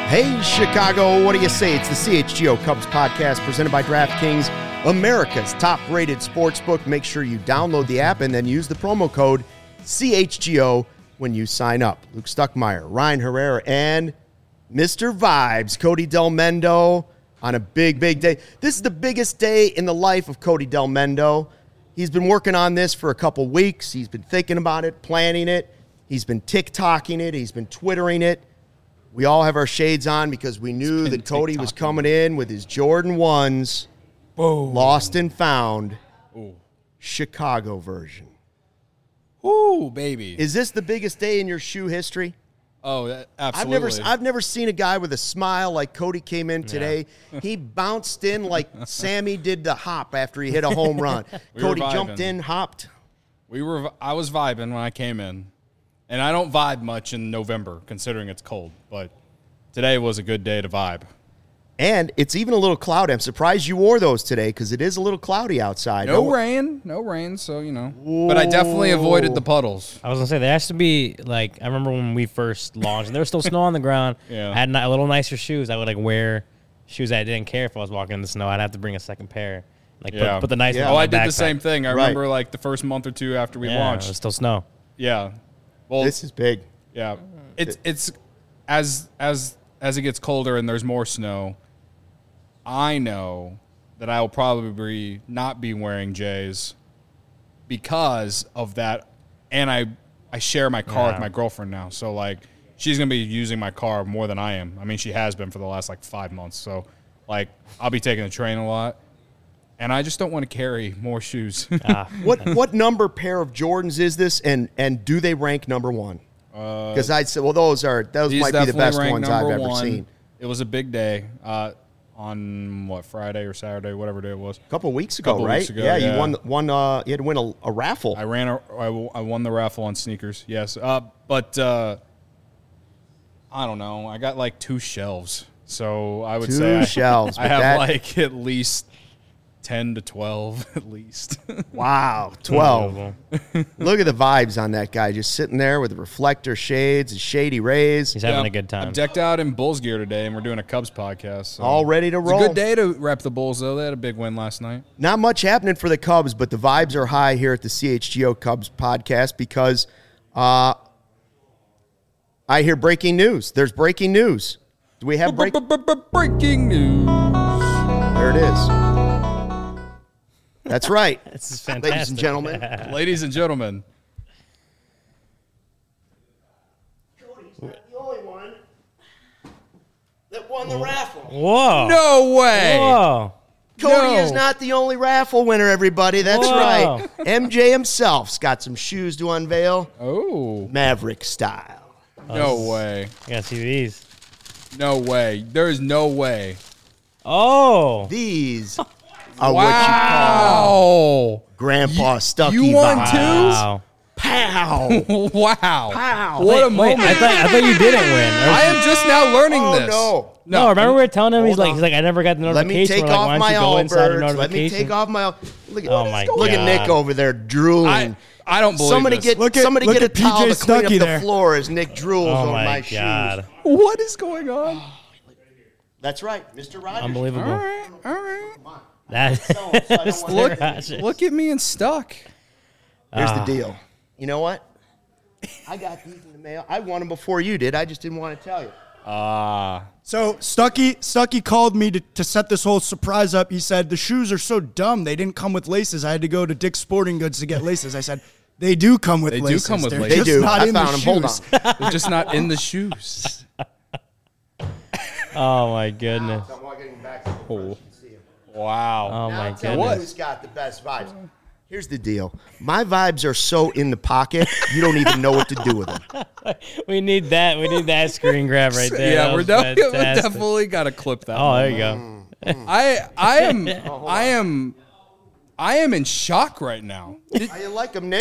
Hey, Chicago, what do you say? It's the CHGO Cubs podcast presented by DraftKings, America's top-rated sportsbook. Make sure you download the app and then use the promo code CHGO when you sign up. Luke Stuckmeyer, Ryan Herrera, and Mr. Vibes, Cody Del Mendo, on a big, big day. This is the biggest day in the life of Cody Del Mendo. He's been working on this for a couple weeks. He's been thinking about it, planning it. He's been TikToking it. He's been Twittering it. We all have our shades on because we knew that Cody was coming in with his Jordan 1s, lost and found, Chicago version. Ooh, baby. Is this the biggest day in your shoe history? Oh, absolutely. I've never seen a guy with a smile like Cody came in today. Yeah. He bounced in like Sammy did the hop after he hit a home run. Cody jumped in, hopped. I was vibing when I came in. And I don't vibe much in November, considering it's cold. But today was a good day to vibe. And it's even a little cloudy. I'm surprised you wore those today because it is a little cloudy outside. No rain, so, you know. Whoa. But I definitely avoided the puddles. I was going to say, there has to be, like, I remember when we first launched, and there was still snow on the ground. Yeah. I had a little nicer shoes. I would, like, wear shoes that I didn't care if I was walking in the snow. I'd have to bring a second pair. Like, put the nice one on my I did backpack. the same thing. I remember, like, the first month or two after we launched. It was still snow. Yeah. Well, this is big. Yeah, it's as it gets colder and there's more snow. I know that I will probably not be wearing J's because of that, and I share my car with my girlfriend now, so like she's gonna be using my car more than I am. I mean, she has been for the last like 5 months. So like I'll be taking the train a lot. And I just don't want to carry more shoes. What number pair of Jordans is this, and do they rank number one? Because I'd say, well, those might be the best ones I've ever seen. It was a big day on Friday or Saturday, whatever day it was. A couple of weeks ago, right? Weeks ago, yeah, you won. You had to win a raffle. I won the raffle on sneakers. Yes, but I don't know. I got like 2 shelves, so I would say shelves. I have like at least 10 to 12 at least. Wow, 12. Look at the vibes on that guy, just sitting there with the reflector shades and shady rays. He's having a good time. I'm decked out in Bulls gear today, and we're doing a Cubs podcast. So. All ready to roll. It's a good day to rep the Bulls, though. They had a big win last night. Not much happening for the Cubs, but the vibes are high here at the CHGO Cubs podcast because I hear breaking news. There's breaking news. Do we have breaking news? There it is. That's right. This is fantastic. Ladies and gentlemen. Ladies and gentlemen. Cody's not the only one that won the raffle. Whoa. No way. Whoa. Cody is not the only raffle winner, everybody. That's right. MJ himself's got some shoes to unveil. Oh. Maverick style. No way. I gotta see these. No way. There is no way. Oh. These are what you call Grandpa Stucky You won vibes. too? Wow. Pow. Wow. Pow. What a moment. I thought you didn't win. I am just now learning this. No, remember we were telling him, he's Hold like, I never got the Let notification. me take We're like, off why my don't you go inside your Allbirds. Let me notification? take off my. Look at, Oh my look at God. Nick over there drooling. I don't believe Somebody this. get Look at a towel PJ to clean up Stuckey the there. floor as Nick drools Oh on my my shoes. God. What is going on? That's right, Mr. Rogers. Unbelievable. All right. That Look at me and stuck. Here's the deal. You know what? I got these in the mail. I won them before you did. I just didn't want to tell you. So Stuckey called me to set this whole surprise up. He said, the shoes are so dumb. They didn't come with laces. I had to go to Dick's Sporting Goods to get laces. I said, they do come with laces. They do come with They're laces. They just do. not I in the found them. Hold on. shoes. They're just not in the shoes. Oh my goodness. I'm walking back to the front. You can see 'em. Wow. Oh my Now tell me goodness. who's got the best vibes. Here's the deal. My vibes are so in the pocket, you don't even know what to do with them. We need that. We need that screen grab right there. Yeah, That we was fantastic. definitely got to clip that. Oh, one. there you go. I am in shock right now. How you like them, Nick?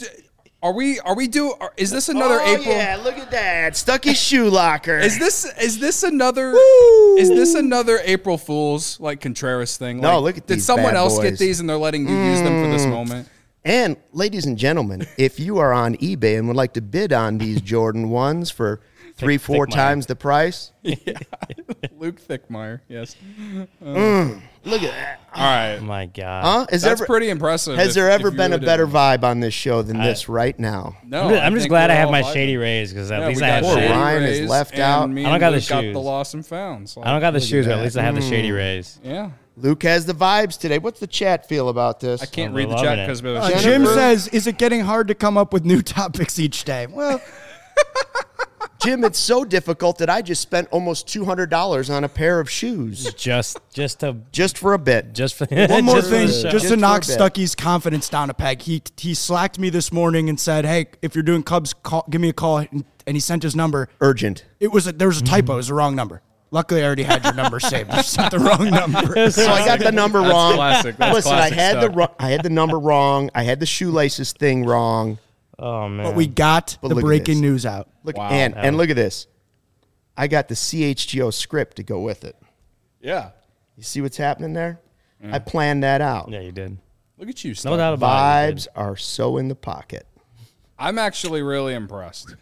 Is this another April? Yeah, look at that. Stucky's shoe locker. Is this another April Fool's like Contreras thing? No, Like, look at did these someone bad else boys. get these and they're letting you use them for this moment? And, ladies and gentlemen, if you are on eBay and would like to bid on these Jordan 1s for 3-4 times the price. Luke Thickmeyer, yes. Look at that. All right. Oh my God. Huh? That's pretty impressive. Has there ever if been you a better didn't- vibe on this show than this right now? No. I'm just think glad I we're have all my vibing. Shady Rays because at Yeah, least we I have got Poor Shady Shady. Ryan is Rays, left and out. Me I don't and got the Luke got shoes. the lost and found. So I don't got the shoes, but that. at least I have the Shady Rays. Yeah. Luke has the vibes today. What's the chat feel about this? I can't Oh, read we're the chat loving it. because Jim says, "Is it getting hard to come up with new topics each day?" Well, Jim, it's so difficult that I just spent almost $200 on a pair of shoes Just for a bit. for one more just for thing, the show. just to for a knock bit. Stuckey's confidence down a peg. He slacked me this morning and said, "Hey, if you're doing Cubs, give me a call." And he sent his number. Urgent. There was a typo. It was the wrong number. Luckily, I already had your number saved. I sent the wrong number. So I got the number That's wrong. classic. That's Listen, classic I had the number wrong. I had the shoelaces thing wrong. Oh man. But we got But the look at breaking this. news out. Look Wow. and look at this. I got the CHGO script to go with it. Yeah. You see what's happening there? I planned that out. Yeah, you did. Look at you, No Stuck. doubt about it. Vibes are so in the pocket. I'm actually really impressed.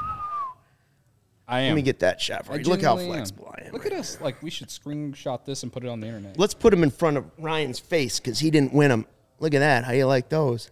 I am. Let me get that shot for I you. Look how genuinely flexible I am. Look at us. Like, we should screenshot this and put it on the internet. Let's put him in front of Ryan's face because he didn't win them. Look at that. How you like those?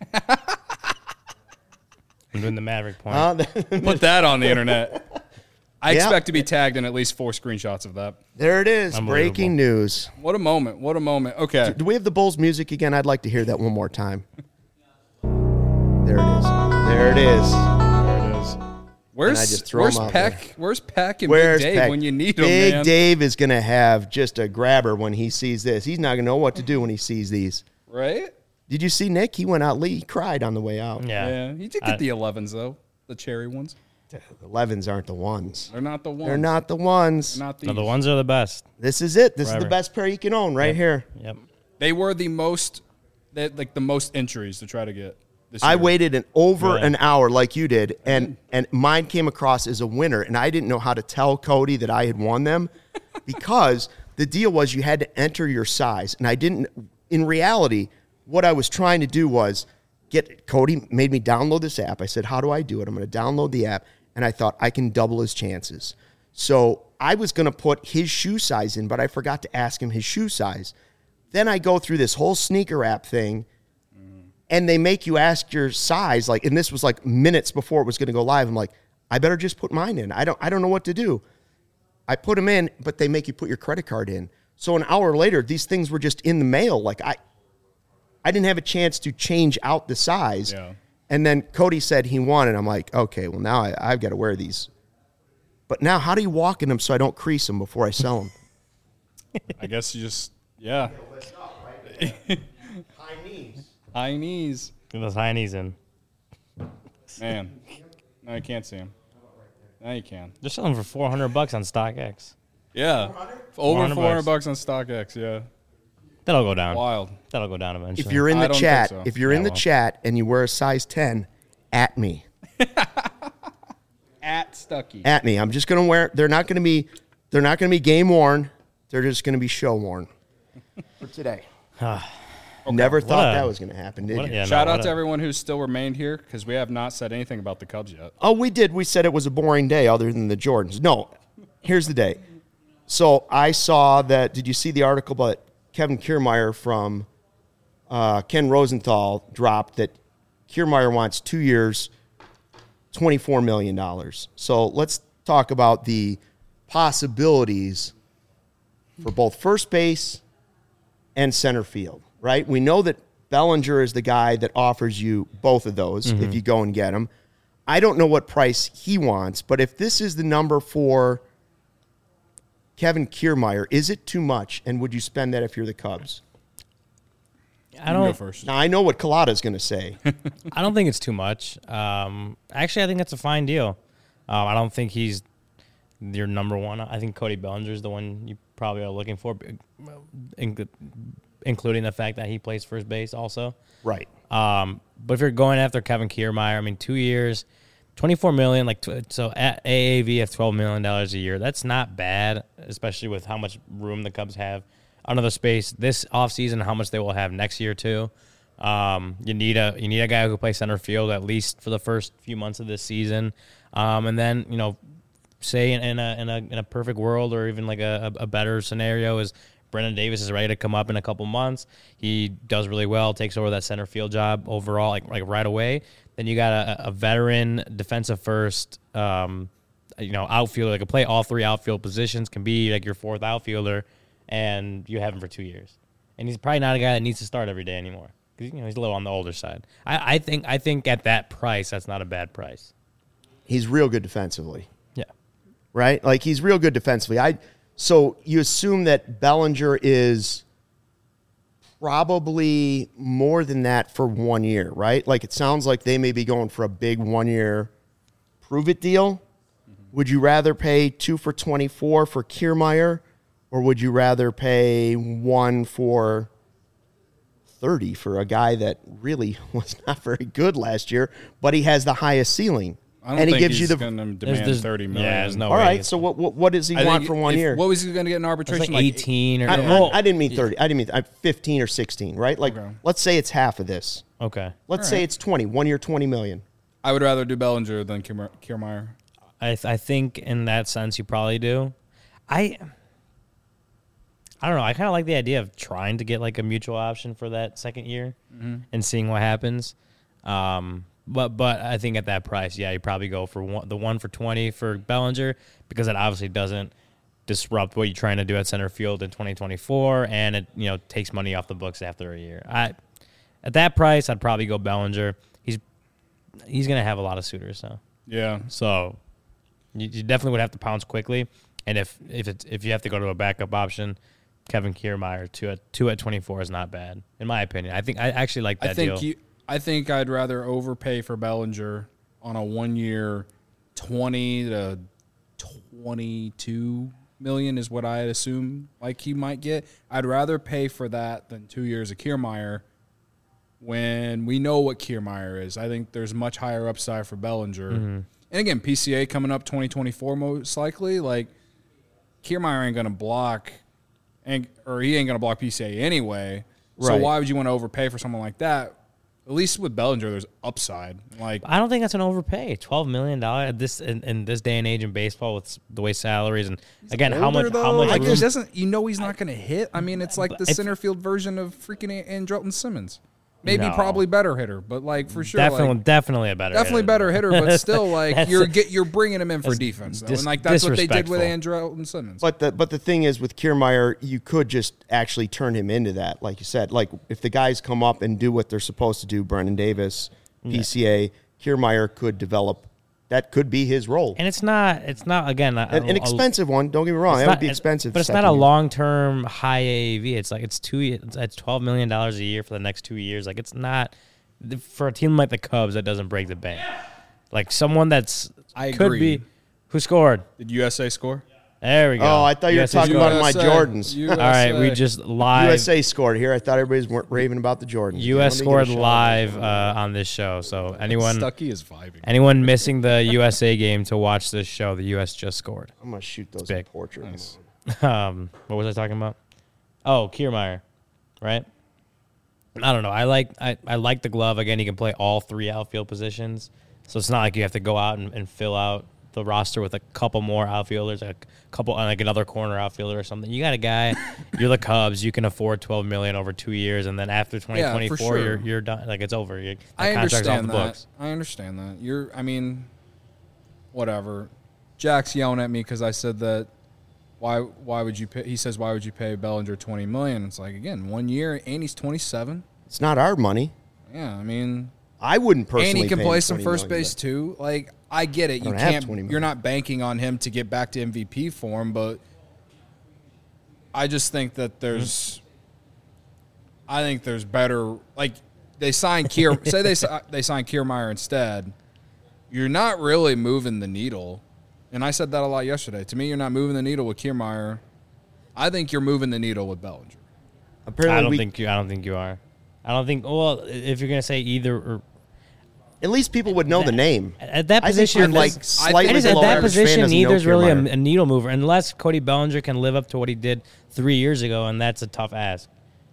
I'm doing the Maverick point. Huh? Put that on the internet. I Yeah. expect to be tagged in at least 4 screenshots of that. There it is. Unbelievable. Breaking news. What a moment. What a moment. Okay. Do we have the Bulls music again? I'd like to hear that one more time. There it is. There it is. There it is. I just throw Where's 'em out Peck? Where's Peck and Where's Big Dave Peck? when you need them, Big man? Dave is going to have just a grabber when he sees this. He's not going to know what to do when he sees these. Right? Did you see Nick? He went out. He cried on the way out. Yeah. Yeah. He did get the 11s, though. The cherry ones. The 11s aren't the ones. They're not the ones. They're not the ones. They're not these. No, the ones are the best. This is it. This is Forever. the best pair you can own right here. Yep. They were the most, the most entries to try to get this I year. waited over Really? an hour like you did, and mine came across as a winner, and I didn't know how to tell Cody that I had won them because the deal was you had to enter your size, and I didn't. In reality, what I was trying to do was Cody made me download this app. I said, how do I do it? I'm going to download the app, and I thought I can double his chances. So I was going to put his shoe size in, but I forgot to ask him his shoe size. Then I go through this whole sneaker app thing, and they make you ask your size, and this was like minutes before it was going to go live. I'm like, I better just put mine in. I don't know what to do. I put them in, but they make you put your credit card in. So an hour later, these things were just in the mail. Like I didn't have a chance to change out the size. Yeah. And then Cody said he won, and I'm like, okay, well now I've got to wear these. But now, how do you walk in them so I don't crease them before I sell them? I guess you just, yeah. High knees. High knees. Get those high knees in. Man. Now you can't see them. Now you can. They're selling for $400 on StockX. Yeah. Over 400 $400 on StockX, yeah. That'll go down. Wild. That'll go down eventually. If you're in I the don't chat, think so. if you're in Yeah, the well. chat and you wear a size 10, at me. At Stuckey. At me. I'm just gonna wear. They're not gonna be game worn. They're just gonna be show worn for today. Never thought a- that was gonna happen, did you? yeah, Shout no, out what to a- everyone who's still remained here because we have not said anything about the Cubs yet. Oh, we did. We said it was a boring day other than the Jordans. No, here's the day. So I saw that. Did you see the article about Kevin Kiermaier from Ken Rosenthal dropped that Kiermaier wants 2 years, $24 million. So let's talk about the possibilities for both first base and center field, right? We know that Bellinger is the guy that offers you both of those if you go and get him. I don't know what price he wants, but if this is the number for Kevin Kiermaier, is it too much? And would you spend that if you're the Cubs? I You go don't. first. Now, I know what Collada's going to say. I don't think it's too much. Actually, I think that's a fine deal. I don't think he's your number one. I think Cody Bellinger is the one you probably are looking for, including the fact that he plays first base also. Right. But if you're going after Kevin Kiermaier, I mean, 2 years, $24 million, so at AAV of $12 million a year, that's not bad, especially with how much room the Cubs have under the space this offseason, how much they will have next year too. You need a guy who can play center field at least for the first few months of this season, and then say in a perfect world, or even like a better scenario, is Brendan Davis is ready to come up in a couple months. He does really well, takes over that center field job overall, like right away. Then you got a veteran defensive first, outfielder that can play all three outfield positions, can be like your fourth outfielder, and you have him for 2 years. And he's probably not a guy that needs to start every day anymore, because he's a little on the older side. I think at that price, that's not a bad price. He's real good defensively. Yeah. Right? Like, he's real good defensively. So you assume that Bellinger is probably more than that for 1 year, right? Like, it sounds like they may be going for a big 1 year prove-it deal. Would you rather pay 2 for 24 for Kiermaier, or would you rather pay 1 for 30 for a guy that really was not very good last year, but he has the highest ceiling? I don't think he's going to demand $30 million. Yeah, there's no All way. right, so what does he want for 1 year? What was he going to get in It's arbitration? like 18 or I didn't mean 30. I didn't mean 15 or 16, right? Like, Okay. let's say it's half of this. Okay. Let's say it's 20. 1 year, $20 million. I would rather do Bellinger than Kiermaier. I think in that sense you probably do. I don't know. I kind of like the idea of trying to get like a mutual option for that second year and seeing what happens. But I think at that price, yeah, you probably go for the 1 for 20 for Bellinger, because it obviously doesn't disrupt what you're trying to do at center field in 2024, and it takes money off the books after a year. At that price, I'd probably go Bellinger. He's gonna have a lot of suitors, so you definitely would have to pounce quickly. And if you have to go to a backup option, Kevin Kiermaier two at 24 is not bad, in my opinion. I actually like that deal. I think I'd rather overpay for Bellinger on a 1 year, 20 to 22 million is what I'd assume like he might get. I'd rather pay for that than 2 years of Kiermaier when we know what Kiermaier is. I think there's much higher upside for Bellinger. Mm-hmm. And again, PCA coming up 2024 most likely. Like, Kiermaier ain't going to block, or he ain't going to block PCA anyway. So why would you want to overpay for someone like that? At least with Bellinger, there's upside. Like, I don't think that's an overpay. $12 million in this day and age in baseball, with the way salaries and again how much like, he doesn't. He's not going to hit. I mean, it's like the center field version of freaking Andrelton Simmons. Maybe probably better hitter, but like for sure, definitely a better, better hitter, but still like you're bringing him in for defense, and like that's what they did with Andrelton Simmons. But the thing is, with Kiermaier, you could just actually turn him into that, like you said. Like, if the guys come up and do what they're supposed to do, Brendan Davis, PCA, Kiermaier could develop. That could be his role. And it's not again an expensive one. Don't get me wrong; that would be expensive. But it's not a long-term high AAV. It's like it's $12 million a year for the next 2 years. Like, it's not for a team like the Cubs that doesn't break the bank. Like, someone that's could be. Who scored? Did USA score? There we go. Oh, I thought you were talking about my Jordans. USA. All right, we just live. USA scored here. I thought everybody's raving about the Jordans. US scored live on this show. So Stuckey is vibing. Anyone missing the USA game to watch this show, the US just scored. I'm gonna shoot those big. portraits. Nice. What was I talking about? Oh, Kiermaier, right? I don't know. I like the glove. Again, he can play all three outfield positions, so it's not like you have to go out and fill out the roster with a couple more outfielders, a couple, like another corner outfielder or something. You got a guy, you're the Cubs, you can afford $12 million over 2 years, and then after 2024, you're done. Like, it's over. I understand that. I understand that. Whatever. Jack's yelling at me because I said that. Why would you pay? He says, why would you pay Bellinger $20 million? It's like, again, 1 year, and he's 27. It's not our money. Yeah, I mean, I wouldn't personally. And he can pay play some first base too. Like, I get it. You can't. You're not banking on him to get back to MVP form, but I just think that there's. I think there's better. Like, they sign say they sign Kiermaier instead. You're not really moving the needle, and I said that a lot yesterday. To me, you're not moving the needle with Kiermaier. I think you're moving the needle with Bellinger. Apparently, I don't think you are. I don't think. Well, if you're gonna say either or. At least people would know the name. At that position, neither's really a needle mover, unless Cody Bellinger can live up to what he did 3 years ago, and that's a tough ask.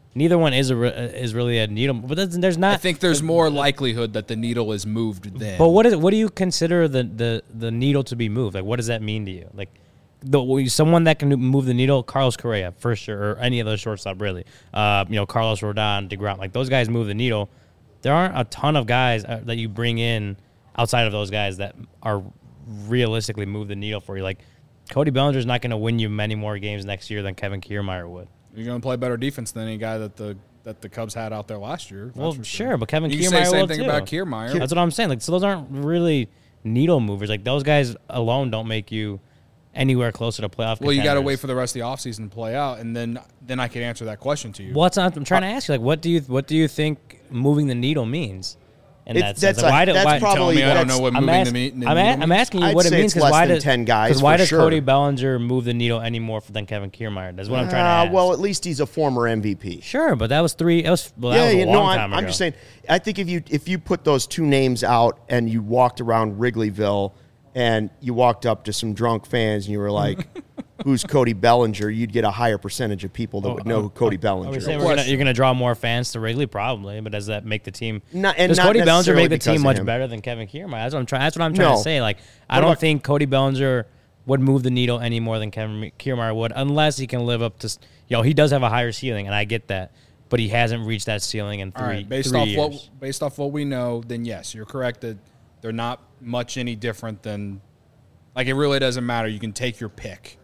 neither one is really a needle. But there's not. I think there's more likelihood that the needle is moved then. But what do you consider the needle to be moved? Like, what does that mean to you? Like, someone that can move the needle, Carlos Correa for sure, or any other shortstop really. Carlos Rodon, DeGrom, like those guys move the needle. There aren't a ton of guys that you bring in outside of those guys that are realistically move the needle for you. Like, Cody Bellinger's not going to win you many more games next year than Kevin Kiermaier would. You're going to play better defense than any guy that the Cubs had out there last year. Well, sure, but Kevin Kiermaier will too. You say the same thing about Kiermaier. That's what I'm saying. Like, so those aren't really needle movers. Like, those guys alone don't make you anywhere closer to playoff. Well, you got to wait for the rest of the offseason to play out, and then I can answer that question to you. I'm trying to ask you. Like, what do you think moving the needle means? That's probably. I don't know what moving the needle means. I'm asking you I'd what it say means it's less than 10 guys. Why does sure. Cody Bellinger move the needle any more than Kevin Kiermaier? That's what I'm trying to ask. Well, at least he's a former MVP. Sure, but that was three. That was a long time ago. I'm just saying. I think if you put those two names out and you walked around Wrigleyville and you walked up to some drunk fans and you were like, "Who's Cody Bellinger?" You'd get a higher percentage of people that would know who Cody Bellinger is. You're going to draw more fans to Wrigley, probably, but does that make the team? Does Cody Bellinger make the team much better than Kevin Kiermaier? That's what I'm trying to say. Like, I don't think Cody Bellinger would move the needle any more than Kevin Kiermaier would, unless he can live up to. He does have a higher ceiling, and I get that, but he hasn't reached that ceiling in three years. Based off what we know, then yes, you're correct that they're not much any different than. Like, it really doesn't matter. You can take your pick.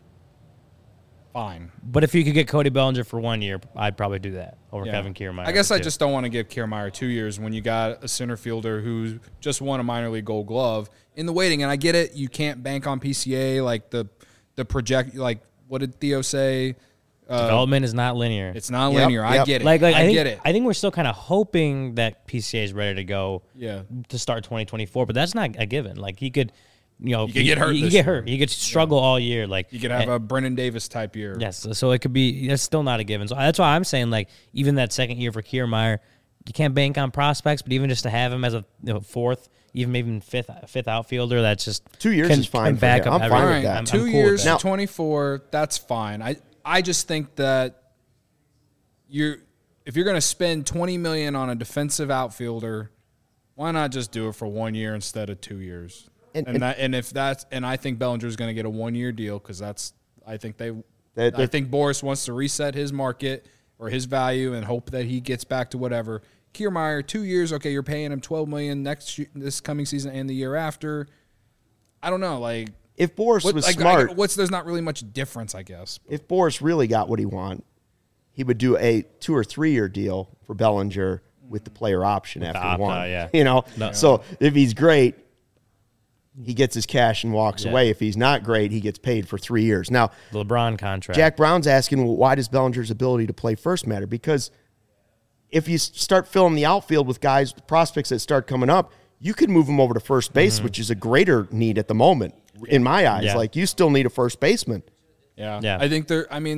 Fine. But if you could get Cody Bellinger for 1 year, I'd probably do that over Kevin Kiermaier. I guess I just don't want to give Kiermaier 2 years when you got a center fielder who just won a minor league Gold Glove in the waiting. And I get it. You can't bank on PCA like the project. Like, what did Theo say? Development is not linear. It's not linear. I get it. I get it. I think we're still kind of hoping that PCA is ready to go. Yeah. To start 2024, but that's not a given. Like, he could. He could get hurt. He could get hurt. He could struggle all year. Like, you could have a Brennan Davis type year. Yes, so it could be. That's still not a given. So that's why I'm saying, like, even that second year for Kiermaier, you can't bank on prospects, but even just to have him as a fourth, even fifth outfielder, that's just 2 years is fine. Back up I'm fine with that. 2 years, 24. That's fine. I just think that if you're going to spend $20 million on a defensive outfielder, why not just do it for 1 year instead of 2 years? I think Bellinger's going to get a 1 year deal because I think Boris wants to reset his market or his value and hope that he gets back to whatever. Kiermaier, 2 years, okay, you're paying him $12 million this coming season and the year after. I don't know, like if Boris was smart, there's not really much difference, I guess. If Boris really got what he wanted, he would do a 2 or 3 year deal for Bellinger with the player option after one. Yeah. So if he's great, he gets his cash and walks away. If he's not great, he gets paid for 3 years. Now, the LeBron contract. Jack Brown's asking, well, why does Bellinger's ability to play first matter? Because if you start filling the outfield with guys, prospects that start coming up, you could move them over to first base, which is a greater need at the moment, in my eyes. Yeah. Like, you still need a first baseman. Yeah. I think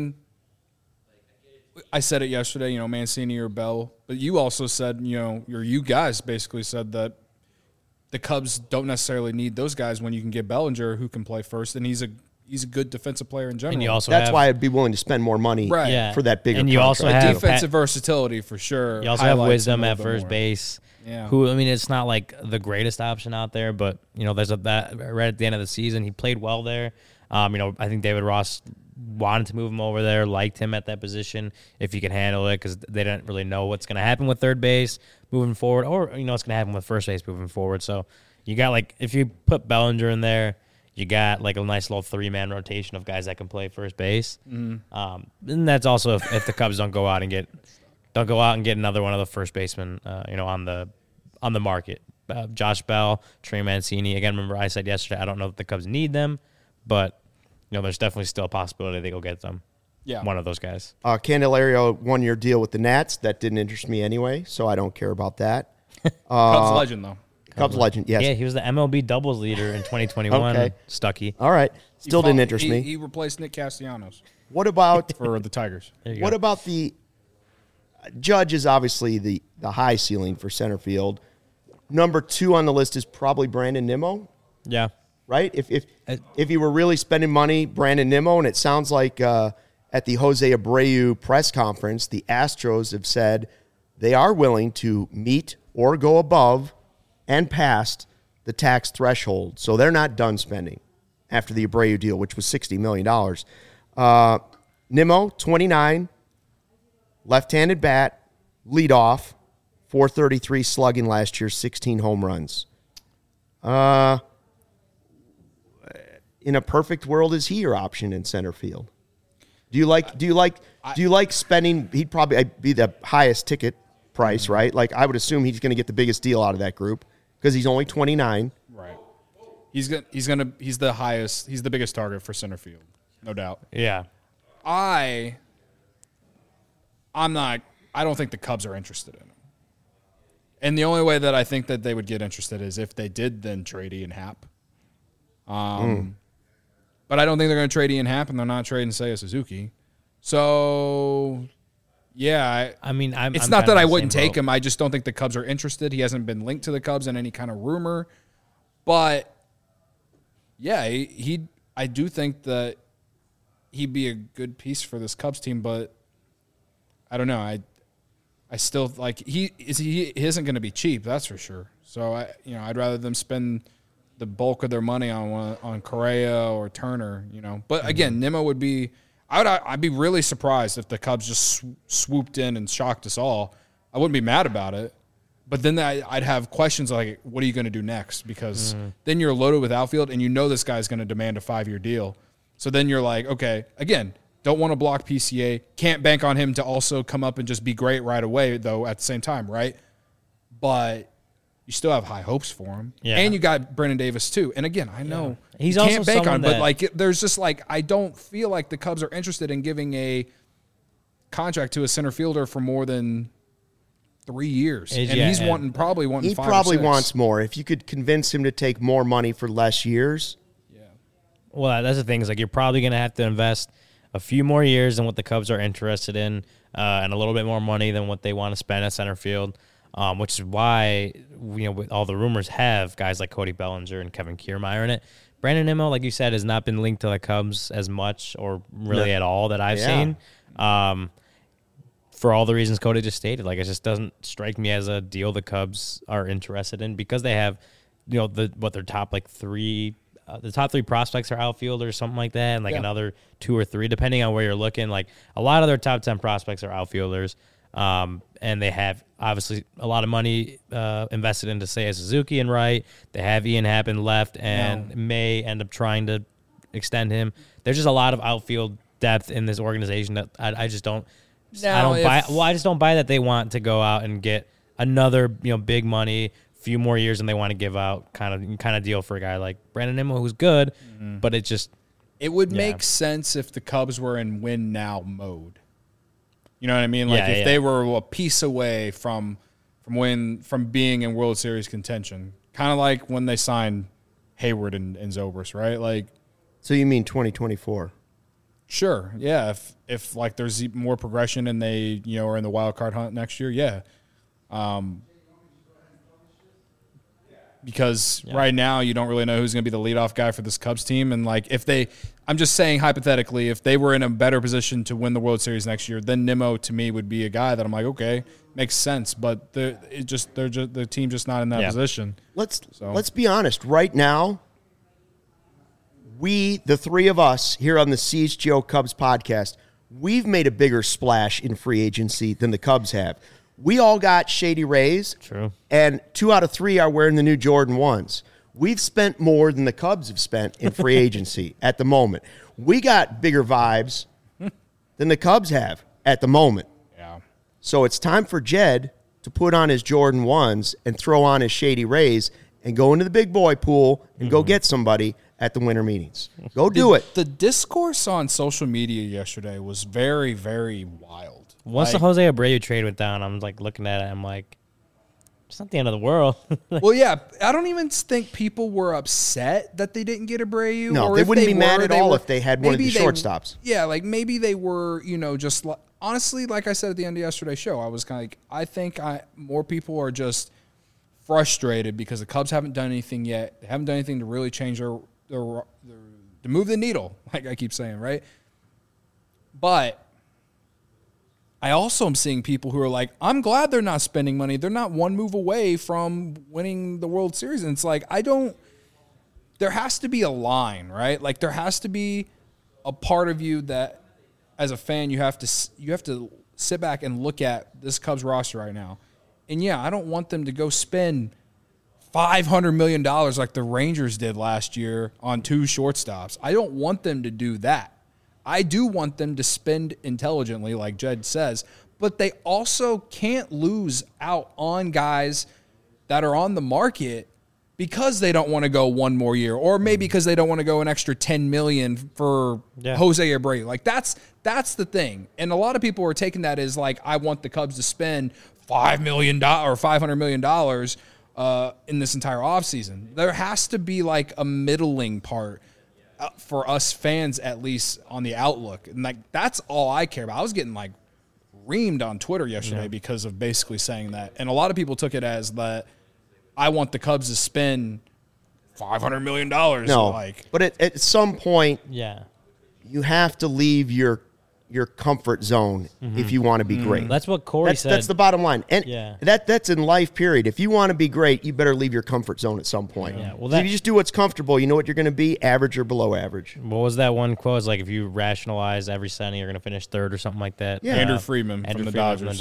I said it yesterday, Mancini or Bell, but you also said, you guys basically said that the Cubs don't necessarily need those guys when you can get Bellinger who can play first, and he's a good defensive player in general. And you also That's why I'd be willing to spend more money for that bigger. And you also contract. have defensive versatility for sure. You also have Wisdom at first base. Yeah. Who, it's not like the greatest option out there, but there's that right at the end of the season, he played well there. I think David Ross wanted to move him over there, liked him at that position if he could handle it, because they didn't really know what's going to happen with third base moving forward, or what's going to happen with first base moving forward. So you got, like, if you put Bellinger in there, you got like a nice little 3-man rotation of guys that can play first base. And that's also if the Cubs don't go out and get another one of the first basemen, on the market. Josh Bell, Trey Mancini. Again, remember I said yesterday I don't know that the Cubs need them, but there's definitely still a possibility they go get them. Yeah, one of those guys. Candelario 1 year deal with the Nats. That didn't interest me anyway, so I don't care about that. Cubs legend though. Cubs legend, yes. Yeah, he was the MLB doubles leader in 2021. Okay. Stuckey. All right. Still didn't interest me. He replaced Nick Castellanos. What about for the Tigers? What about the Judge is obviously the high ceiling for center field. Number 2 on the list is probably Brandon Nimmo. Yeah. Right? If you were really spending money, Brandon Nimmo, and it sounds like at the Jose Abreu press conference, the Astros have said they are willing to meet or go above and past the tax threshold. So they're not done spending after the Abreu deal, which was $60 million. Nimmo, 29, left-handed bat, leadoff, 433 slugging last year, 16 home runs. In a perfect world, is he your option in center field? Do you like spending? He'd probably be the highest ticket price, right? Like, I would assume he's going to get the biggest deal out of that group because he's only 29. Right. He's the highest. He's the biggest target for center field, no doubt. Yeah. I don't think the Cubs are interested in him. And the only way that I think that they would get interested is if they did then trade Ian Happ. But I don't think they're going to trade Ian Happ, and they're not trading Seiya Suzuki. So, yeah. It's not that I wouldn't take him. I just don't think the Cubs are interested. He hasn't been linked to the Cubs in any kind of rumor. But, yeah, I do think that he'd be a good piece for this Cubs team, but I don't know. I still he isn't going to be cheap, that's for sure. So I'd rather them spend the bulk of their money on Correa or Turner, But again, Nimmo would be. I'd be really surprised if the Cubs just swooped in and shocked us all. I wouldn't be mad about it, but then I'd have questions like, what are you going to do next? Because then you're loaded with outfield, and this guy's going to demand a 5-year deal. So then you're like, okay, again, don't want to block PCA. Can't bank on him to also come up and just be great right away, though, at the same time, right? But you still have high hopes for him. Yeah. And you got Brennan Davis, too. And again, I know he's you also can't bank on, but there's just I don't feel like the Cubs are interested in giving a contract to a center fielder for more than 3 years. And he's probably wanting 5 or 6. He probably wants more. If you could convince him to take more money for less years. Yeah. Well, that's the thing. Is you're probably going to have to invest a few more years than what the Cubs are interested in, and a little bit more money than what they want to spend at center field, which is why with all the rumors have guys like Cody Bellinger and Kevin Kiermaier in it. Brandon Nimmo, like you said, has not been linked to the Cubs as much or really at all that I've seen. For all the reasons Cody just stated, it just doesn't strike me as a deal the Cubs are interested in because they have, their top three. The top 3 prospects are outfielders, something like that, and another 2 or 3, depending on where you're looking. A lot of their top 10 prospects are outfielders, and they have obviously a lot of money invested into Seiya Suzuki and right. They have Ian Happ in left and may end up trying to extend him. There's just a lot of outfield depth in this organization that I just don't. I just don't buy that they want to go out and get another big money. Few more years than they want to give out kind of deal for a guy like Brandon Nimmo, who's good, but it would make sense if the Cubs were in win now mode. You know what I mean? If they were a piece away from being in World Series contention, kind of like when they signed Hayward and Zobrist, right? So you mean 2024? Sure, yeah. If there's more progression and they are in the wild card hunt next year, yeah. Because right now you don't really know who's going to be the leadoff guy for this Cubs team. And I'm just saying hypothetically, if they were in a better position to win the World Series next year, then Nimmo to me would be a guy that I'm like, okay, makes sense. But the team's just not in that position. Let's be honest. Right now, the 3 of us here on the CHGO Cubs podcast, we've made a bigger splash in free agency than the Cubs have. We all got Shady Rays. True. And 2 out of 3 are wearing the new Jordan 1s. We've spent more than the Cubs have spent in free agency at the moment. We got bigger vibes than the Cubs have at the moment. Yeah. So it's time for Jed to put on his Jordan 1s and throw on his Shady Rays and go into the big boy pool and go get somebody at the winter meetings. Go do it. The discourse on social media yesterday was very, very wild. Once the Jose Abreu trade went down, I'm looking at it. I'm like, it's not the end of the world. Well, yeah, I don't even think people were upset that they didn't get Abreu. No, or they wouldn't be mad at all if they had one of the shortstops. Yeah, maybe they were, just honestly, like I said at the end of yesterday's show, I was kind of I think more people are just frustrated because the Cubs haven't done anything yet. They haven't done anything to really change their to move the needle, like I keep saying, right? But I also am seeing people who are like, I'm glad they're not spending money. They're not one move away from winning the World Series. And it's like, there has to be a line, right? Like there has to be a part of you that as a fan, you have to sit back and look at this Cubs roster right now. And yeah, I don't want them to go spend $500 million like the Rangers did last year on 2 shortstops. I don't want them to do that. I do want them to spend intelligently, like Jed says, but they also can't lose out on guys that are on the market because they don't want to go one more year, or maybe because they don't want to go an extra $10 million for Jose Abreu. Like that's the thing. And a lot of people are taking that as like, I want the Cubs to spend $5 million or $500 million in this entire offseason. There has to be like a middling part for us fans, at least on the outlook. And like, that's all I care about. I was getting like reamed on Twitter yesterday because of basically saying that. And a lot of people took it as that I want the Cubs to spend $500 million. No, like, but at some point, you have to leave your comfort zone if you want to be great. That's what Corey said. That's the bottom line. And that's in life, period. If you want to be great, you better leave your comfort zone at some point. Yeah. Well, if you just do what's comfortable, you know what you're going to be, average or below average. What was that one quote? It's like if you rationalize every signing, you're going to finish third or something like that. Yeah. Andrew Friedman from the Dodgers.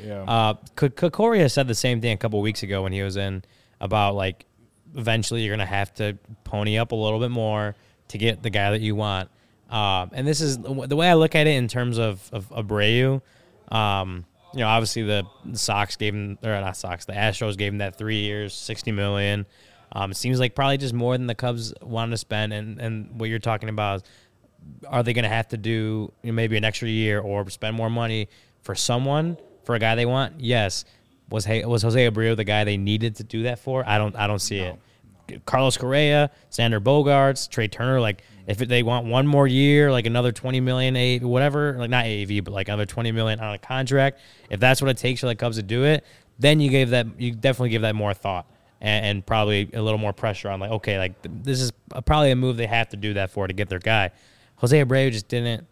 Corey said the same thing a couple of weeks ago when he was in about like eventually you're going to have to pony up a little bit more to get the guy that you want. And this is the way I look at it in terms of Abreu. Obviously the Sox gave him, or not Sox, the Astros gave him that 3 years, $60 million. It seems like probably just more than the Cubs wanted to spend. And what you're talking about is, are they going to have to do maybe an extra year or spend more money for someone, for a guy they want? Yes. Was Jose Abreu the guy they needed to do that for? I don't see it. Carlos Correa, Xander Bogaerts, Trey Turner, like if they want one more year, like another $20 million, whatever, like not AAV, but like another $20 million on a contract, if that's what it takes for the Cubs to do it, then you definitely give that more thought and probably a little more pressure on like, okay, like this is probably a move they have to do that for to get their guy. Jose Abreu just didn't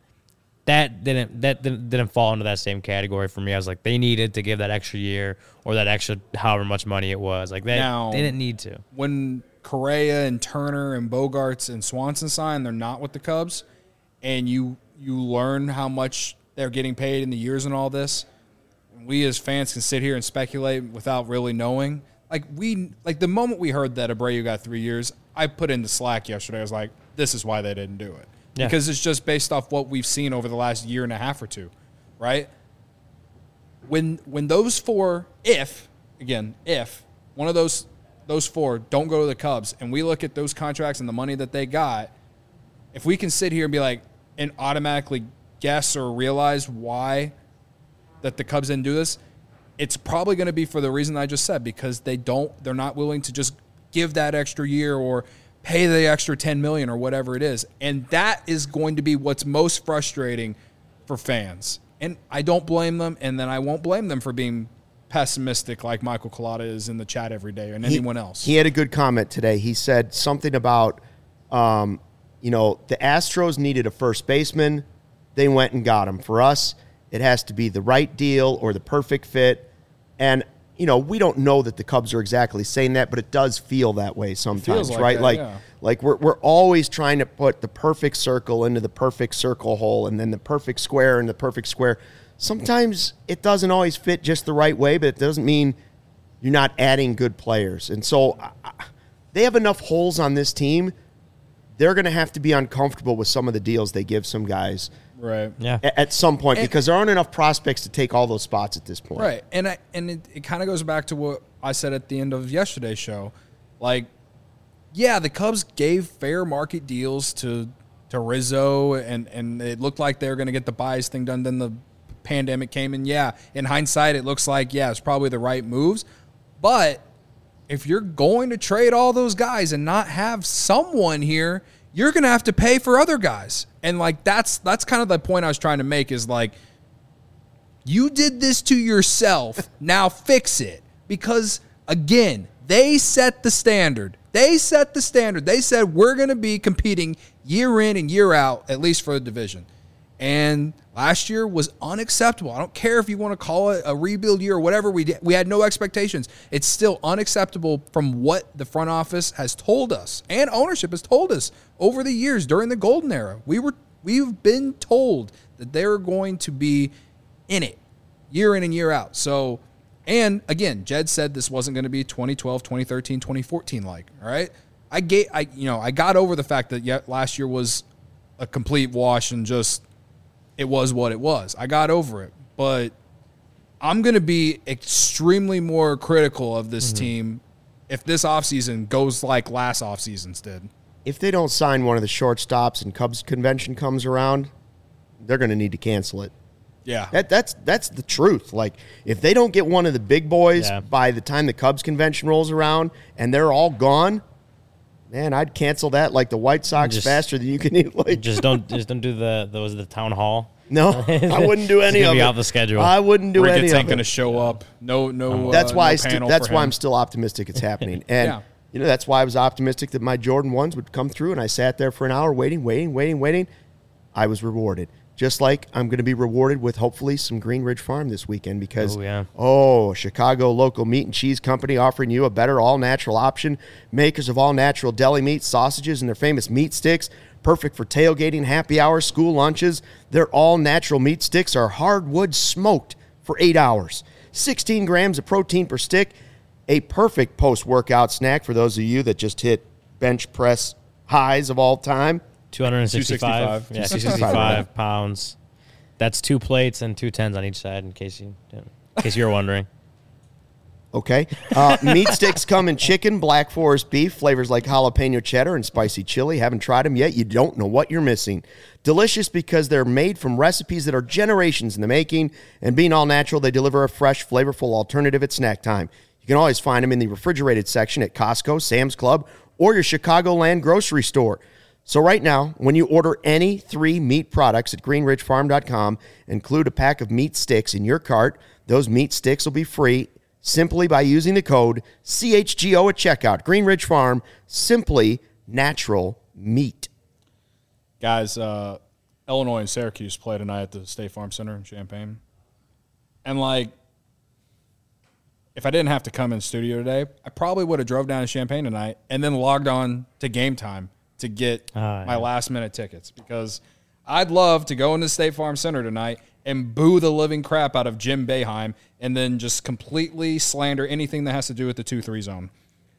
fall into that same category for me. I was like, they needed to give that extra year or that extra however much money it was. Like they didn't need to. When Correa and Turner and Bogaerts and Swanson sign, they're not with the Cubs, and you learn how much they're getting paid in the years and all this. We as fans can sit here and speculate without really knowing. Like the moment we heard that Abreu got 3 years, I put in the Slack yesterday. I was like, this is why they didn't do it. Yeah. Because it's just based off what we've seen over the last year and a half or two, right? When those four, if one of those four don't go to the Cubs and we look at those contracts and the money that they got, if we can sit here and be like, and automatically guess or realize why that the Cubs didn't do this, it's probably going to be for the reason I just said, because they're not willing to just give that extra year or pay the extra $10 million or whatever it is. And that is going to be what's most frustrating for fans. And I don't blame them, and then I won't blame them for being pessimistic like Michael Collada is in the chat every day and anyone else. He had a good comment today. He said something about, the Astros needed a first baseman. They went and got him. For us, it has to be the right deal or the perfect fit. And we don't know that the Cubs are exactly saying that, but it does feel that way sometimes, right? Like we're always trying to put the perfect circle into the perfect circle hole and then the perfect square in the perfect square. Sometimes it doesn't always fit just the right way, but it doesn't mean you're not adding good players. And so they have enough holes on this team. They're going to have to be uncomfortable with some of the deals they give some guys. Right. Yeah. At some point, because there aren't enough prospects to take all those spots at this point. Right. And it kind of goes back to what I said at the end of yesterday's show. Like, yeah, the Cubs gave fair market deals to Rizzo, and it looked like they were going to get the Baez thing done. Then the pandemic came, and yeah, in hindsight, it looks like, yeah, it's probably the right moves. But if you're going to trade all those guys and not have someone here, you're going to have to pay for other guys. And, like, that's kind of the point I was trying to make is, like, you did this to yourself. Now fix it. Because, again, they set the standard. They set the standard. They said we're going to be competing year in and year out, at least for the division. And last year was unacceptable. I don't care if you want to call it a rebuild year or whatever. We had no expectations. It's still unacceptable from what the front office has told us and ownership has told us over the years during the golden era. We've been told that they're going to be in it year in and year out. So, and again, Jed said this wasn't going to be 2012, 2013, 2014 like, all right? I got over the fact that last year was a complete wash and just it was what it was. I got over it. But I'm going to be extremely more critical of this team if this offseason goes like last offseasons did. If they don't sign one of the shortstops and Cubs convention comes around, they're going to need to cancel it. Yeah. That's the truth. Like, if they don't get one of the big boys by the time the Cubs convention rolls around and they're all gone, man, I'd cancel that like the White Sox faster than you can eat. Like, just don't do the town hall. No, I wouldn't do any of it. Off the schedule. I wouldn't do any of it. Ricketts ain't going to show up. No. That's why. That's why I'm still optimistic it's happening. And that's why I was optimistic that my Jordan 1s would come through. And I sat there for an hour waiting. I was rewarded. Just like I'm going to be rewarded with hopefully some Green Ridge Farm this weekend because, Chicago local meat and cheese company offering you a better all-natural option. Makers of all-natural deli meat, sausages, and their famous meat sticks. Perfect for tailgating, happy hours, school lunches. Their all-natural meat sticks are hardwood smoked for 8 hours. 16 grams of protein per stick. A perfect post-workout snack for those of you that just hit bench press highs of all time. 265. Yeah, 265 pounds. That's 2 plates and 2 10s on each side, in case you were wondering. Okay. Meat sticks come in chicken, Black Forest beef, flavors like jalapeno cheddar and spicy chili. Haven't tried them yet? You don't know what you're missing. Delicious because they're made from recipes that are generations in the making, and being all natural, they deliver a fresh, flavorful alternative at snack time. You can always find them in the refrigerated section at Costco, Sam's Club, or your Chicagoland grocery store. So right now, when you order any 3 meat products at greenridgefarm.com, include a pack of meat sticks in your cart. Those meat sticks will be free simply by using the code CHGO at checkout. Green Ridge Farm, simply natural meat. Guys, Illinois and Syracuse play tonight at the State Farm Center in Champaign. And, if I didn't have to come in studio today, I probably would have drove down to Champaign tonight and then logged on to Game Time to get my last-minute tickets because I'd love to go into State Farm Center tonight and boo the living crap out of Jim Boeheim and then just completely slander anything that has to do with the 2-3 zone.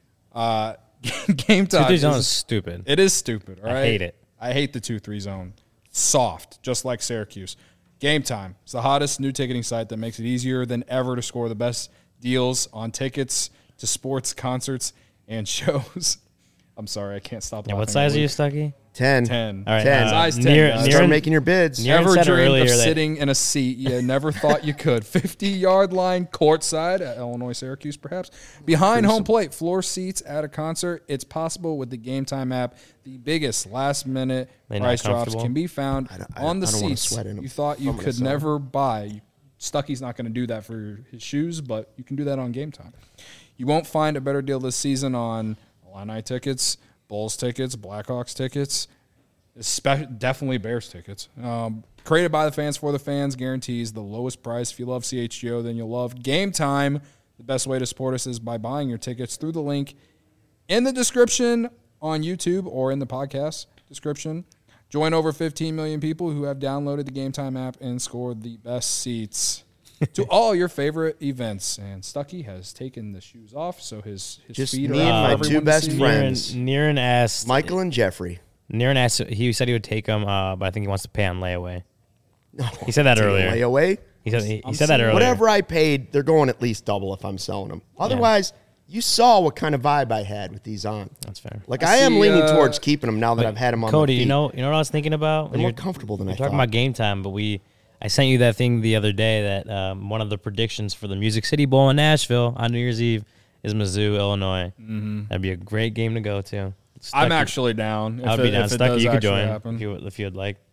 Game Time 2-3 zone is stupid. It is stupid, all right? I hate it. I hate the 2-3 zone. Soft, just like Syracuse. Game Time. It's the hottest new ticketing site that makes it easier than ever to score the best deals on tickets to sports, concerts, and shows. I'm sorry, I can't stop laughing. What size are you, Stucky? 10. 10. All right. 10. Size 10. Start making your bids. Never said dreamed earlier of that- sitting in a seat you never thought you could. 50-yard line courtside at Illinois Syracuse, perhaps. Behind home plate, floor seats at a concert. It's possible with the Game Time app. The biggest last-minute They not price drops comfortable? can be found on the I don't wanna seats sweat in 'em. you thought you I'm gonna could sell 'em. never buy. Stucky's not going to do that for his shoes, but you can do that on Game Time. You won't find a better deal this season on Illini tickets, Bulls tickets, Blackhawks tickets, definitely Bears tickets. Created by the fans for the fans, guarantees the lowest price. If you love CHGO, then you'll love Game Time. The best way to support us is by buying your tickets through the link in the description on YouTube or in the podcast description. Join over 15 million people who have downloaded the Game Time app and scored the best seats to all your favorite events. And Stucky has taken the shoes off, so his Just feet me are and out my for two everyone to best see. friends. Niren asked Michael and Jeffrey. Niren asked. He said he would take them, but I think he wants to pay on layaway. He said that earlier. Layaway? He said that earlier. Whatever I paid, they're going at least double if I'm selling them. Otherwise, you saw what kind of vibe I had with these on. That's fair. Like, I I am see, leaning towards keeping them now that I've had them on Cody, my feet. you know what I was thinking about? They're more comfortable than I We're talking thought. about Game Time, but I sent you that thing the other day that one of the predictions for the Music City Bowl in Nashville on New Year's Eve is Mizzou, Illinois. Mm-hmm. That'd be a great game to go to. I'm actually down. I would be down. If it Stucky, does you could actually join happen. if you'd like.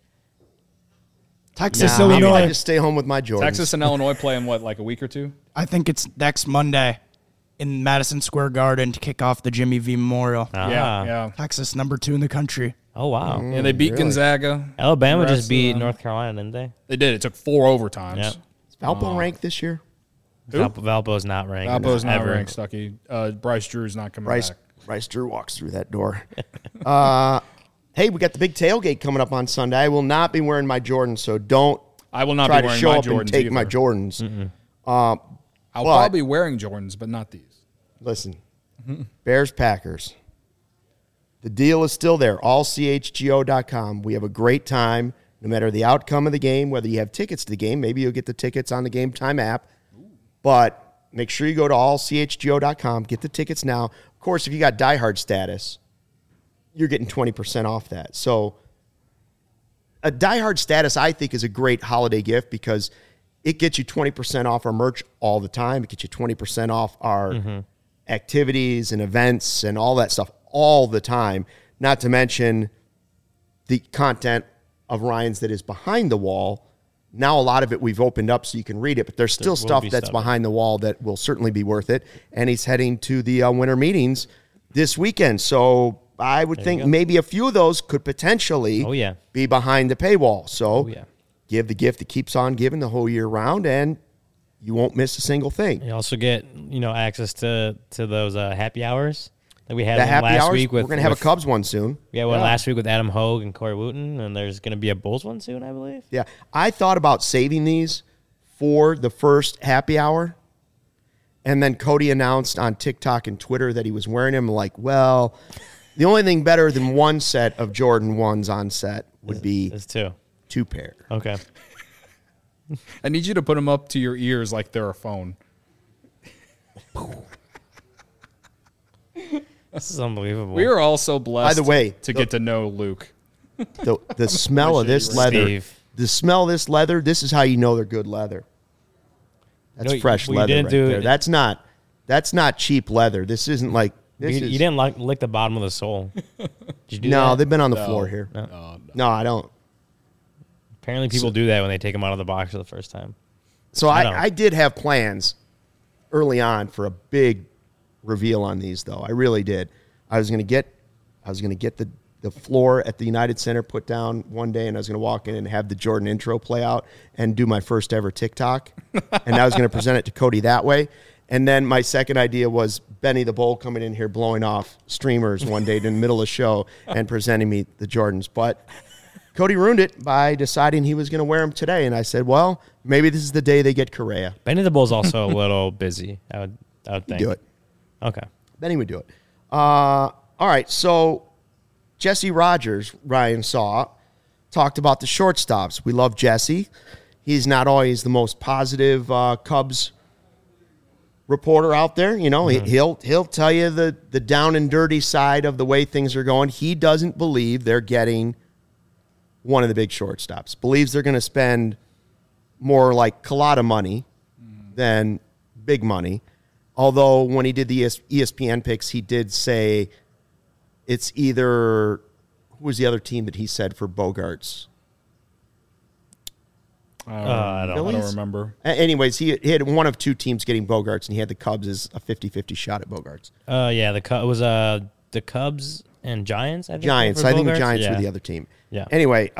Texas, Nah, Illinois. I just stay home with my Jordans. Texas and Illinois play in what, like a week or two? I think it's next Monday in Madison Square Garden to kick off the Jimmy V Memorial. Ah. Yeah. Texas, number 2 in the country. Oh, wow. And they beat Really? Gonzaga. Alabama Congrats just beat to them. North Carolina, didn't they? They did. It took 4 overtimes. Yep. Is Valpo ranked this year? Who? Valpo's not ranked. Valpo's not ever. ranked, Stucky. Bryce Drew's not coming Bryce back. Drew walks through that door. Hey, we got the big tailgate coming up on Sunday. I will not be wearing my Jordans, so don't I will not try be to wearing show my up Jordans and take either. my Jordans. I'll but- probably be wearing Jordans, but not these. Listen, Bears, Packers. The deal is still there. AllCHGO.com. We have a great time, no matter the outcome of the game, whether you have tickets to the game. Maybe you'll get the tickets on the Game Time app. But make sure you go to AllCHGO.com. Get the tickets now. Of course, if you got diehard status, you're getting 20% off that. So a diehard status, I think, is a great holiday gift because it gets you 20% off our merch all the time. It gets you 20% off our activities and events and all that stuff all the time. Not to mention the content of Ryan's that is behind the wall. Now a lot of it we've opened up so you can read it, but there's still will stuff be that's stuff. behind the wall that will certainly be worth it. And he's heading to the winter meetings this weekend. So I would think maybe a few of those could potentially Oh, yeah. be behind the paywall. So Oh, yeah. give the gift that keeps on giving the whole year round, and you won't miss a single thing. You also get, access to those happy hours that we had The one happy last hours, week with. we're going to have a with- Cubs one soon. We had one last week with Adam Hogue and Corey Wooten, and there's going to be a Bulls one soon, I believe. Yeah. I thought about saving these for the first happy hour, and then Cody announced on TikTok and Twitter that he was wearing them. Like, well, the only thing better than one set of Jordan 1s on set would be There's 2. 2 pair. Okay. I need you to put them up to your ears like they're a phone. This is unbelievable. We are all so blessed By the way, to get to know Luke. The smell of this leather, Steve. the smell of this leather, this is how you know they're good leather. That's No, fresh well, you leather didn't right do there. it- That's not cheap leather. This isn't like this You is, didn't lick the bottom of the sole. Did you do No, that? they've been on the floor here. No, I don't. Apparently people do that when they take them out of the box for the first time. So I don't. I did have plans early on for a big reveal on these, though. I really did. I was going to get the floor at the United Center put down one day, and I was going to walk in and have the Jordan intro play out and do my first ever TikTok. And I was going to present it to Cody that way. And then my second idea was Benny the Bull coming in here blowing off streamers one day in the middle of the show and presenting me the Jordans. But Cody ruined it by deciding he was going to wear them today. And I said, well, maybe this is the day they get Correa. Benny the Bull's also a little busy, I would think. Do it. Okay. Benny would do it. All right, so Jesse Rogers, Ryan saw, talked about the shortstops. We love Jesse. He's not always the most positive Cubs reporter out there. He'll tell you the down and dirty side of the way things are going. He doesn't believe they're getting one of the big shortstops. Believes they're going to spend more like Collada money than big money. Although when he did the ESPN picks, he did say it's either who was the other team that he said for Bogarts? I don't I don't remember. Anyways, he had one of 2 teams getting Bogarts, and he had the Cubs as a 50-50 shot at Bogarts. Yeah, it was the Cubs and Giants, I think. Giants. for I think the Bogarts. Giants Yeah. were the other team. Yeah. Anyway,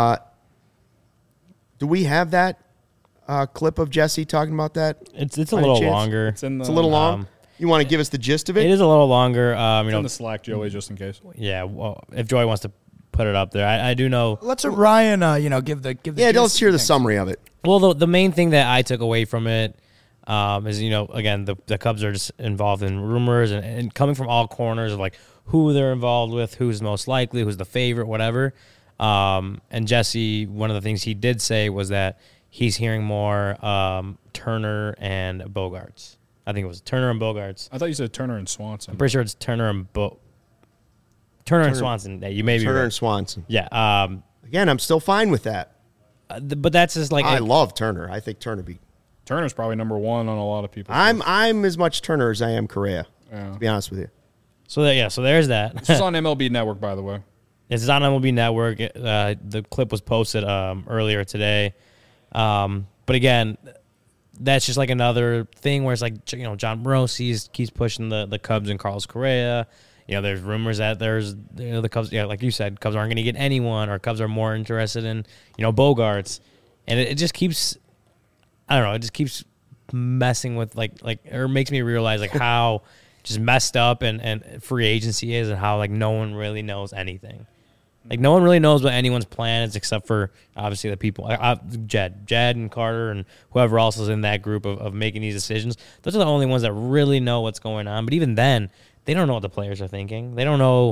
do we have that clip of Jesse talking about that? It's a By any little chance? longer. It's in the, It's a little long. You want to give us the gist of it? It is a little longer. it's in the Slack, Joey, just in case. Yeah. Well, if Joey wants to put it up there, I do know. Let's let Ryan, give the Yeah, gist let's hear the thing. summary of it. Well, the main thing that I took away from it is, again, the Cubs are just involved in rumors and coming from all corners of like who they're involved with, who's most likely, who's the favorite, whatever. And Jesse, one of the things he did say was that he's hearing more Turner and Bogarts. I think it was Turner and Bogarts. I thought you said Turner and Swanson. I'm pretty sure it's Turner and Turner and Swanson. Yeah, you may be Turner right. and Swanson. Yeah. Again, I'm still fine with that. But that's just like I love Turner. I think Turner be. Turner's probably number 1 on a lot of people. I'm as much Turner as I am Correa. Yeah. To be honest with you. so there's that. This is on MLB Network, by the way. It's on MLB Network. The clip was posted earlier today. But again, that's just like another thing where it's like, John Morosi keeps pushing the Cubs and Carlos Correa. there's rumors that the Cubs, like you said, Cubs aren't going to get anyone, or Cubs are more interested in, Bogarts. And it just keeps, I don't know, it just keeps messing with or makes me realize how just messed up and free agency is, and how no one really knows anything. No one really knows what anyone's plan is, except for obviously the people, Jed and Carter and whoever else is in that group of making these decisions. Those are the only ones that really know what's going on. But even then, they don't know what the players are thinking. They don't know,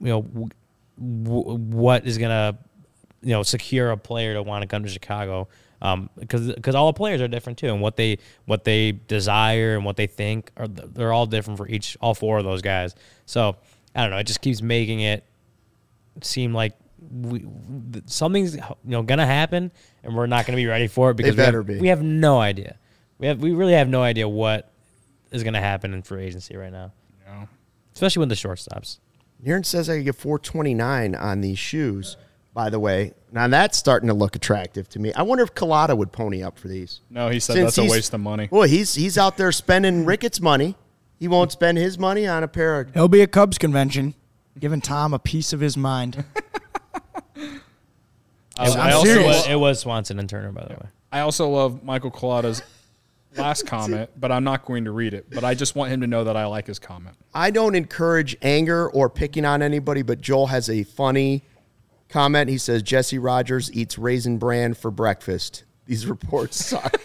what is gonna, secure a player to want to come to Chicago. Because all the players are different too, and what they desire and what they think they're all different for all four of those guys. So I don't know. It just keeps making it seem like something's gonna happen, and we're not gonna be ready for it because we have no idea. We really have no idea what is gonna happen in free agency right now. Yeah. Especially with the shortstops. Aaron says I could get $429 on these shoes. By the way, now that's starting to look attractive to me. I wonder if Collada would pony up for these. No, he said that's a waste of money. Well, he's out there spending Ricketts' money. He won't spend his money on a pair of... He'll be at Cubs convention, giving Tom a piece of his mind. It was Swanson and Turner, by the way. I also love Michael Collada's last comment, but I'm not going to read it. But I just want him to know that I like his comment. I don't encourage anger or picking on anybody, but Joel has a funny comment. He says, Jesse Rogers eats Raisin Bran for breakfast. These reports suck.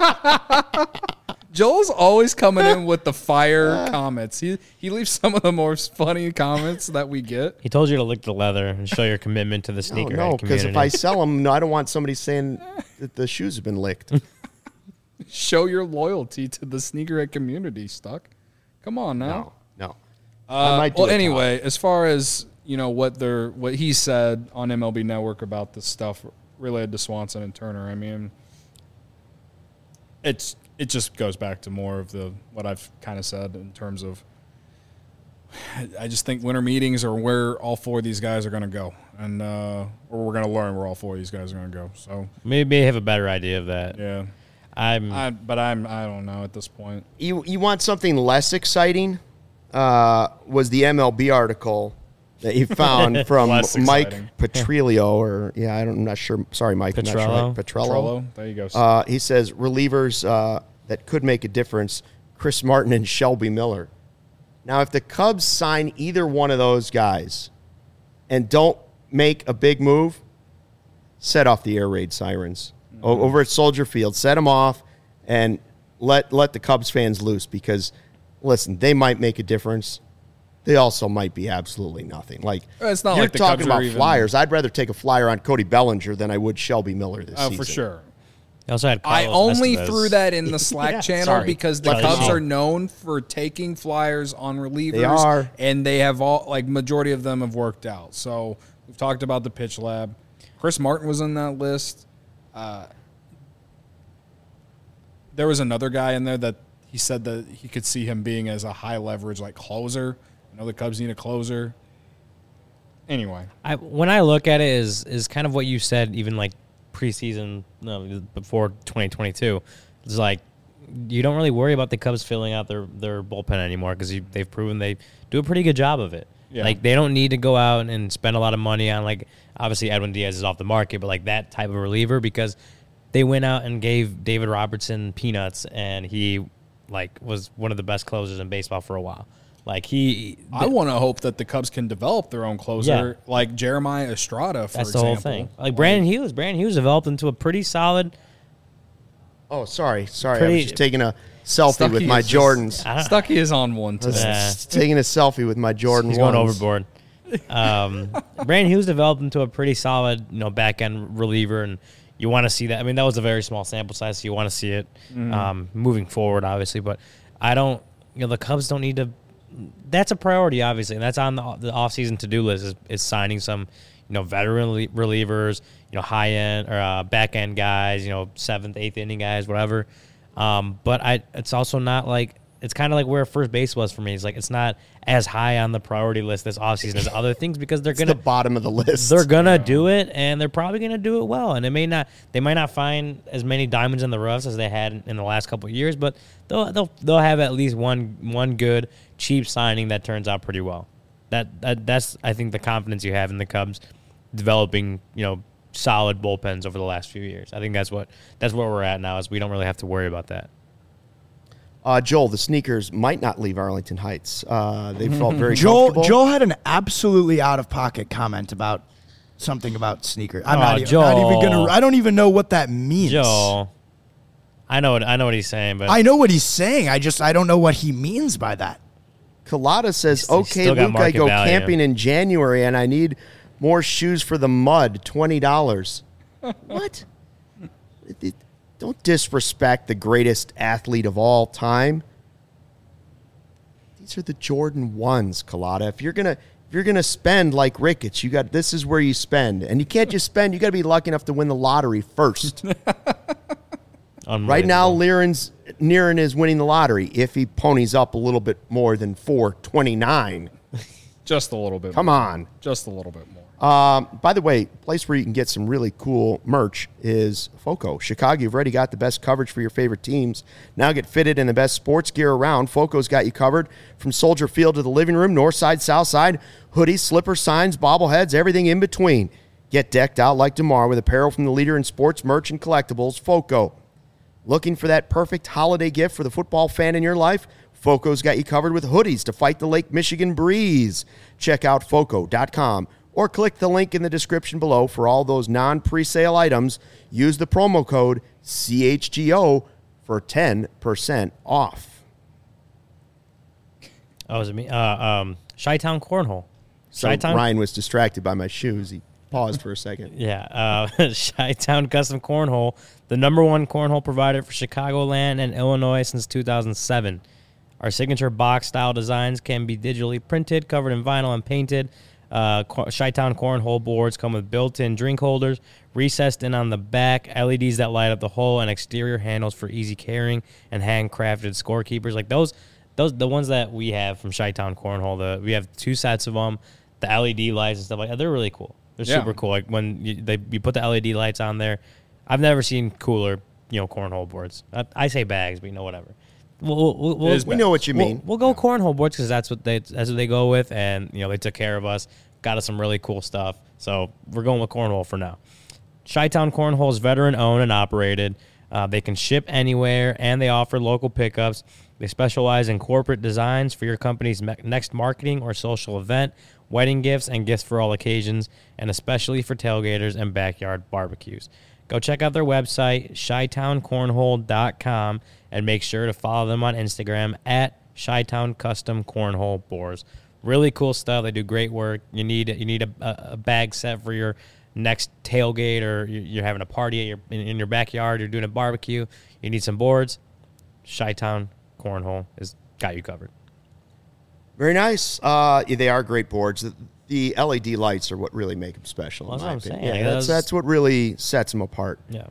Joel's always coming in with the fire comments. He leaves some of the most funny comments that we get. He told you to lick the leather and show your commitment to the sneakerhead community. No, because if I sell them, I don't want somebody saying that the shoes have been licked. Show your loyalty to the sneakerhead community, Stuck. Come on now. No. Anyway, as far as what he said on MLB Network about this stuff related to Swanson and Turner, I mean, it just goes back to more of what I've kind of said in terms of, I just think winter meetings are where all four of these guys are going to go, and or we're going to learn where all four of these guys are going to go. So maybe have a better idea of that. Yeah, I don't know at this point. You want something less exciting? Was the MLB article that you found from Mike Petrillo, I'm not sure. Sorry, Mike. Petrello. Petrello. There you go. He says relievers that could make a difference: Chris Martin and Shelby Miller. Now, if the Cubs sign either one of those guys and don't make a big move, set off the air raid sirens over at Soldier Field. Set them off and let the Cubs fans loose because, listen, they might make a difference. They also might be absolutely nothing. It's not you're like the talking Cubs about are flyers. I'd rather take a flyer on Cody Bellinger than I would Shelby Miller this season. Oh, for sure. He also had I Carlos only Estevez. threw that in the Slack channel because the Cubs are known for taking flyers on relievers. They are. And they have majority of them have worked out. So we've talked about the pitch lab. Chris Martin was in that list. There was another guy in there that he said that he could see him being as a high leverage closer. I know the Cubs need a closer. Anyway, when I look at it is kind of what you said, even preseason before 2022. It's you don't really worry about the Cubs filling out their bullpen anymore because they've proven they do a pretty good job of it. Yeah. They don't need to go out and spend a lot of money on obviously Edwin Diaz is off the market, but that type of reliever because they went out and gave David Robertson peanuts and he was one of the best closers in baseball for a while. I want to hope that the Cubs can develop their own closer, like Jeremiah Estrada, for example. That's the whole thing. Brandon Hughes. Brandon Hughes developed into a pretty solid. Oh, sorry. I was just taking a selfie with my Jordans. Stucky is on one today. Taking a selfie with my Jordan. He's going overboard. Brandon Hughes developed into a pretty solid, back end reliever, and you want to see that. I mean, that was a very small sample size, so you want to see it moving forward, obviously. But I don't. The Cubs don't need to. That's a priority, obviously, and that's on the offseason to-do list is signing some, veteran relievers, high end or back end guys, 7th, 8th inning guys, whatever. But it's also not it's kind of like where first base was for me. It's it's not as high on the priority list this offseason as other things because they're gonna the bottom of the list. They're gonna do it, and they're probably gonna do it well. And they might not find as many diamonds in the roughs as they had in the last couple of years, but they'll have at least one good cheap signing that turns out pretty well. That's I think the confidence you have in the Cubs developing, solid bullpens over the last few years. I think that's where we're at now, is we don't really have to worry about that. Joel, the Sneakers might not leave Arlington Heights. They felt very comfortable. Joel had an absolutely out-of-pocket comment about something about sneakers. Joel. I don't even know what that means. Joel, I know what he's saying, but I know what he's saying. I don't know what he means by that. Colada says, He's okay, still got Luke, I market go value. camping in January and I need more shoes for the mud, $20. What? Don't disrespect the greatest athlete of all time. These are the Jordan 1s, Colada. If you're gonna spend like Ricketts, this is where you spend. And you can't just spend, you gotta be lucky enough to win the lottery first. Right now, Niren is winning the lottery if he ponies up a little bit more than $429. Just a little bit. Come on. Just a little bit more. By the way, place where you can get some really cool merch is FOCO. Chicago, you've already got the best coverage for your favorite teams. Now get fitted in the best sports gear around. FOCO's got you covered from Soldier Field to the living room, north side, south side, hoodies, slippers, signs, bobbleheads, everything in between. Get decked out like tomorrow with apparel from the leader in sports merch and collectibles, FOCO. Looking for that perfect holiday gift for the football fan in your life? FOCO's got you covered with hoodies to fight the Lake Michigan breeze. Check out FOCO.com or click the link in the description below for all those non-presale items. Use the promo code CHGO for 10% off. Oh, is it me? Chi-Town Cornhole. So Ryan was distracted by my shoes. He paused for a second. Yeah, Chi-Town Custom Cornhole, the #1 cornhole provider for Chicagoland and Illinois since 2007. Our signature box-style designs can be digitally printed, covered in vinyl, and painted. Chi-Town Cornhole boards come with built-in drink holders, recessed in on the back, LEDs that light up the hole, and exterior handles for easy carrying and handcrafted scorekeepers. Like those, the ones that we have from Chi-Town Cornhole, we have 2 sets of them, the LED lights and stuff like that. They're really cool. They're super cool. Like when you put the LED lights on there, I've never seen cooler, cornhole boards. I say bags, but whatever. We know what you mean. We'll go cornhole boards because that's what they go with, and they took care of us, got us some really cool stuff. So we're going with cornhole for now. Chi-Town Cornhole is veteran owned and operated. They can ship anywhere, and they offer local pickups. They specialize in corporate designs for your company's next marketing or social event, wedding gifts, and gifts for all occasions, and especially for tailgaters and backyard barbecues. Go check out their website, ChiTownCornhole.com, and make sure to follow them on Instagram at Chi-Town Custom Cornhole Boards. Really cool stuff. They do great work. You need a bag set for your next tailgate, or you're having a party in your backyard, you're doing a barbecue, you need some boards. Chi-Town Cornhole has got you covered. Very nice. They are great boards. The LED lights are what really make them special. Well, that's what I'm saying. Yeah, that's what really sets them apart. Yeah.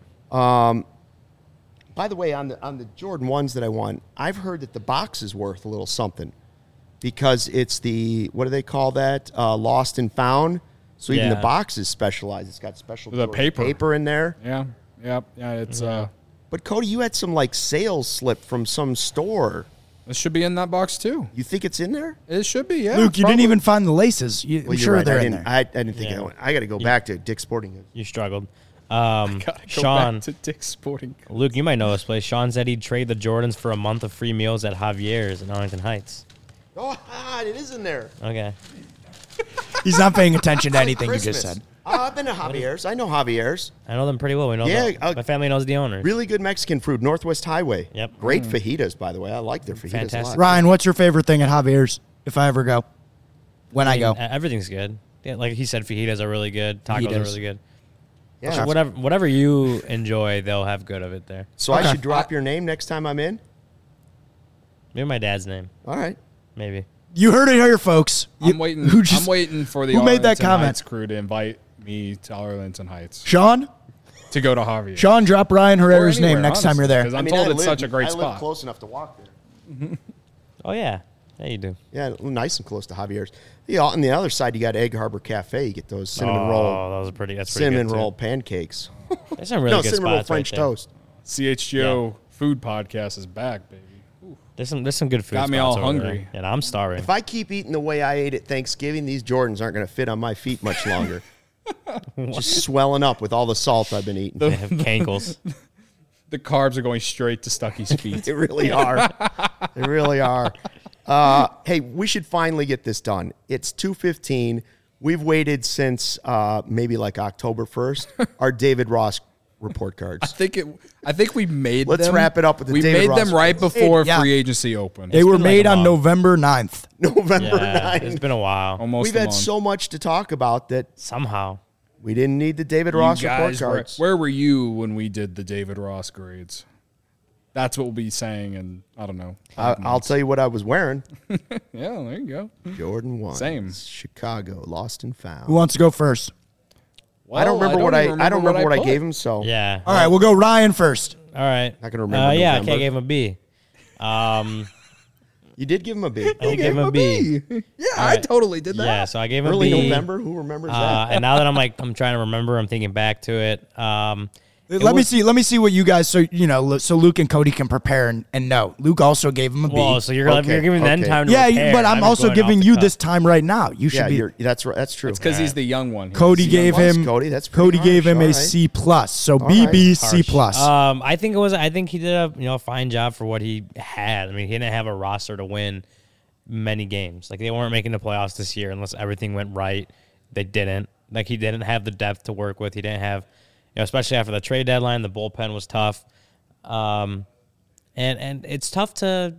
By the way, on the Jordan 1s that I won, I've heard that the box is worth a little something because it's what do they call that? Lost and found. So even the box is specialized. It's got special paper in there. Yeah. It's But Cody, you had some sales slip from some store. It should be in that box too. You think it's in there? It should be, yeah. Luke, you didn't even find the laces. I'm sure right. they're in there. I didn't think of that. I got to go back to Dick's Sporting Goods. You struggled. Go Sean, back to Dick's Sporting Goods. Luke, you might know this place. Sean said he'd trade the Jordans for a month of free meals at Javier's in Arlington Heights. Oh, it is in there. Okay. He's not paying attention to anything you Christmas. just said. I've been to Javier's. I know Javier's. I know them pretty well. We know my family knows the owners. Really good Mexican food, Northwest Highway. Yep. Great fajitas, by the way. I like their fajitas Fantastic. a lot. Ryan, what's your favorite thing at Javier's if I ever go? I go. Everything's good. Yeah, like he said, fajitas are really good. Tacos are really good. Yeah. So whatever you enjoy, they'll have good of it there. So I should drop your name next time I'm in? Maybe my dad's name. All right. Maybe. You heard it here, folks. I'm waiting for the who made that Arlington comment? Heights crew to invite me to Arlington Heights Sean? to go to Javier. Sean, drop Ryan Herrera's name next time you're there. Because I'm told it's such a great I spot. live close enough to walk there. Oh, yeah. Yeah, you do. Yeah, nice and close to Javier's. Yeah, on the other side, you got Egg Harbor Cafe. You get those cinnamon roll. That's pretty cinnamon good roll too. pancakes. There's some really good cinnamon roll spots French right there. toast. CHGO Food Podcast is back, baby. Ooh. There's some good food. Got me spots all over there. hungry. And I'm starving. If I keep eating the way I ate at Thanksgiving, these Jordans aren't going to fit on my feet much longer. Just swelling up with all the salt I've been eating. They have cankles. The carbs are going straight to Stucky's feet. They really are. They really are. Hey, we should finally get this done. It's 2:15. We've waited since maybe like October 1st. Our David Ross report cards. I think we made Let's them. wrap it up with the we David made Ross them right reports. before Yeah. free agency opened. They were been like made a on month. November 9th. November Yeah, 9th. it's been a while. Almost We've a had month. so much to talk about that Somehow. we didn't need the David You Ross report guys cards. where were you when we did the David Ross grades? That's what we'll be saying in, I don't know. I'll tell you what I was wearing. Yeah, there you go. Jordan 1. Same. Chicago, lost and found. Who wants to go first? I don't remember what even I don't remember what I put. gave him, so Yeah. All right, we'll go Ryan first. All right. Not gonna remember Yeah, November. I gave him a B. you did give him a B. I did give him a B. Yeah, I totally did that. Yeah, so I gave him Early a B. November. Who remembers that? And now that I'm trying to remember, I'm thinking back to it. Let me see what you guys, so Luke and Cody can prepare and know. Luke also gave him a B. Well, so you're Okay, giving them okay. time to Yeah, prepare. but I'm also going giving off the you cuff. this time right now. You should Yeah, be. that's right. That's true. It's because he's the young one. Cody He's gave young ones, him. Cody, that's pretty Cody gave harsh, him all a right. C plus. So right. BB C Harsh. plus. I think he did a fine job for what he had. I mean, he didn't have a roster to win many games. Like, they weren't making the playoffs this year unless everything went right. They didn't. Like, he didn't have the depth to work with. He didn't have, especially after the trade deadline, the bullpen was tough. And it's tough to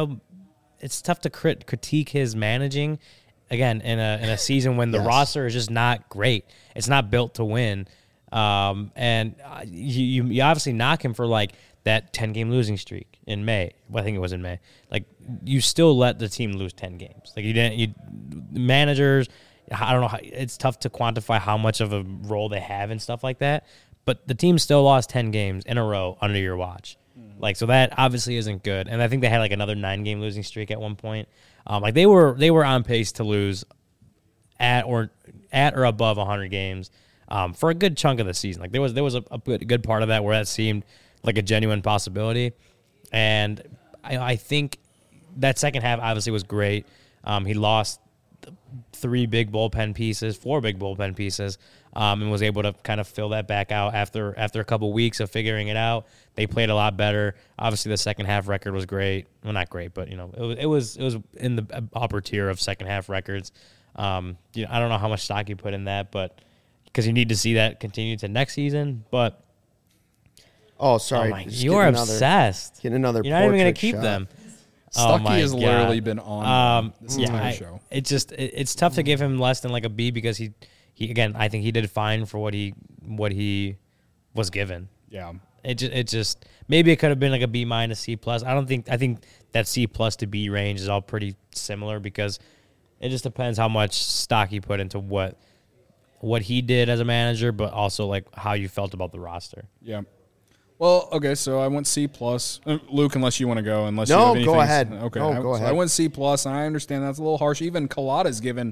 critique his managing again in a season when the Yes. roster is just not great. It's not built to win. And you obviously knock him for like that 10-game losing streak in May. Well, I think it was in May. Like, you still let the team lose 10 games. Like, managers, I don't know, it's tough to quantify how much of a role they have and stuff like that. But the team still lost 10 games in a row under your watch. Like, so that obviously isn't good. And I think they had like another 9-game losing streak at one point. Like, they were on pace to lose at or above 100 games for a good chunk of the season. Like, there was a good part of that where that seemed like a genuine possibility. And I think that second half obviously was great. He lost 4 big bullpen pieces, and was able to kind of fill that back out after a couple weeks of figuring it out. They played a lot better. Obviously, the second half record was great. Well, not great, but it was in the upper tier of second half records. I don't know how much stock you put in that, but because you need to see that continue to next season. But Oh, sorry. Just you're getting obsessed. Getting another. You're not even going portrait to keep shot. them. Stucky my has God. literally been on this entire I- show. It's tough to give him less than like a B because he again, I think he did fine for what he was given. Yeah. It just maybe it could have been like a B minus C plus. I think that C plus to B range is all pretty similar because it just depends how much stock you put into what he did as a manager, but also like how you felt about the roster. Yeah. Well, okay, so I went C plus. Luke, unless you want to go, unless No, you have anything. go ahead. Okay, No, go so ahead. I went C plus, and I understand that's a little harsh. Even Collada's given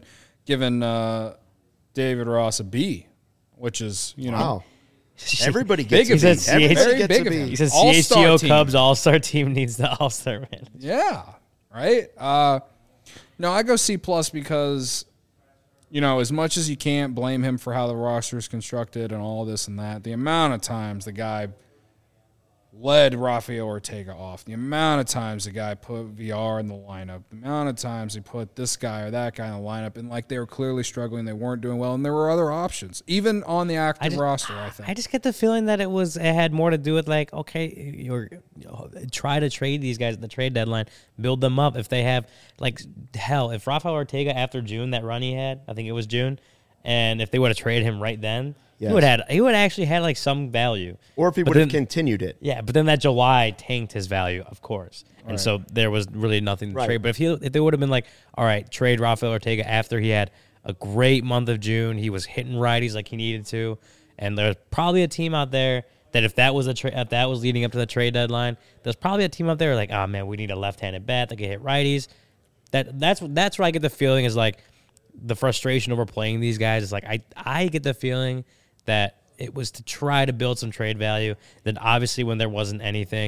David Ross a B, which is Wow. Everybody gets Big a of B. him. Everybody Very gets big a of him. B. He says All-star CHGO team. Cubs All-Star team needs the All-Star man. Yeah, right. No, I go C plus because as much as you can't blame him for how the roster is constructed and all this and that, the amount of times the guy led Rafael Ortega off, the amount of times the guy put VR in the lineup, the amount of times he put this guy or that guy in the lineup, and like they were clearly struggling, they weren't doing well, and there were other options, even on the active roster, I think. I just get the feeling that it had more to do with like, okay, try to trade these guys at the trade deadline, build them up. If they have if Rafael Ortega after June, that run he had, I think it was June, and if they would have traded him right then, Yes. he would actually had like some value. Or if he But would have then- continued it. Yeah, but then that July tanked his value, of course, and so there was really nothing to Right. trade. But if they would have been like, all right, trade Rafael Ortega after he had a great month of June, he was hitting righties like he needed to, and there's probably a team out there that if that was leading up to the trade deadline, there's probably a team out there like, oh man, we need a left-handed bat that can hit righties. That's where I get the feeling is like the frustration over playing these guys is like I get the feeling that it was to try to build some trade value. Then obviously when there wasn't anything,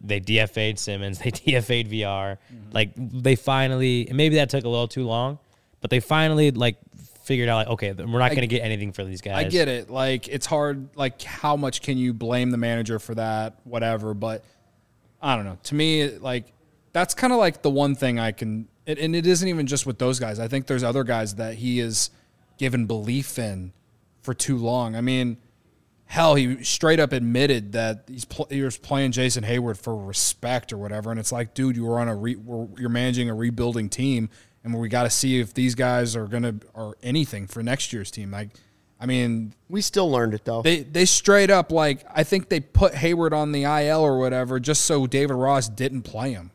They DFA'd Simmons. They DFA'd VR. Like, they finally, and maybe that took a little too long, but they finally, like, figured out, like, okay, we're not going to get anything for these guys. I get it. Like, it's hard. Like, how much can you blame the manager for that? Whatever. But I don't know. To me, like, that's kind of like the one thing I can, and it isn't even just with those guys. I think there's other guys that he is given belief in for too long. I mean, hell, he straight up admitted that he was playing Jason Hayward for respect or whatever. And it's like, dude, you were on you're managing a rebuilding team, and we got to see if these guys are anything for next year's team. Like, I mean, we still learned it though. They straight up, like, I think they put Hayward on the IL or whatever just so David Ross didn't play him.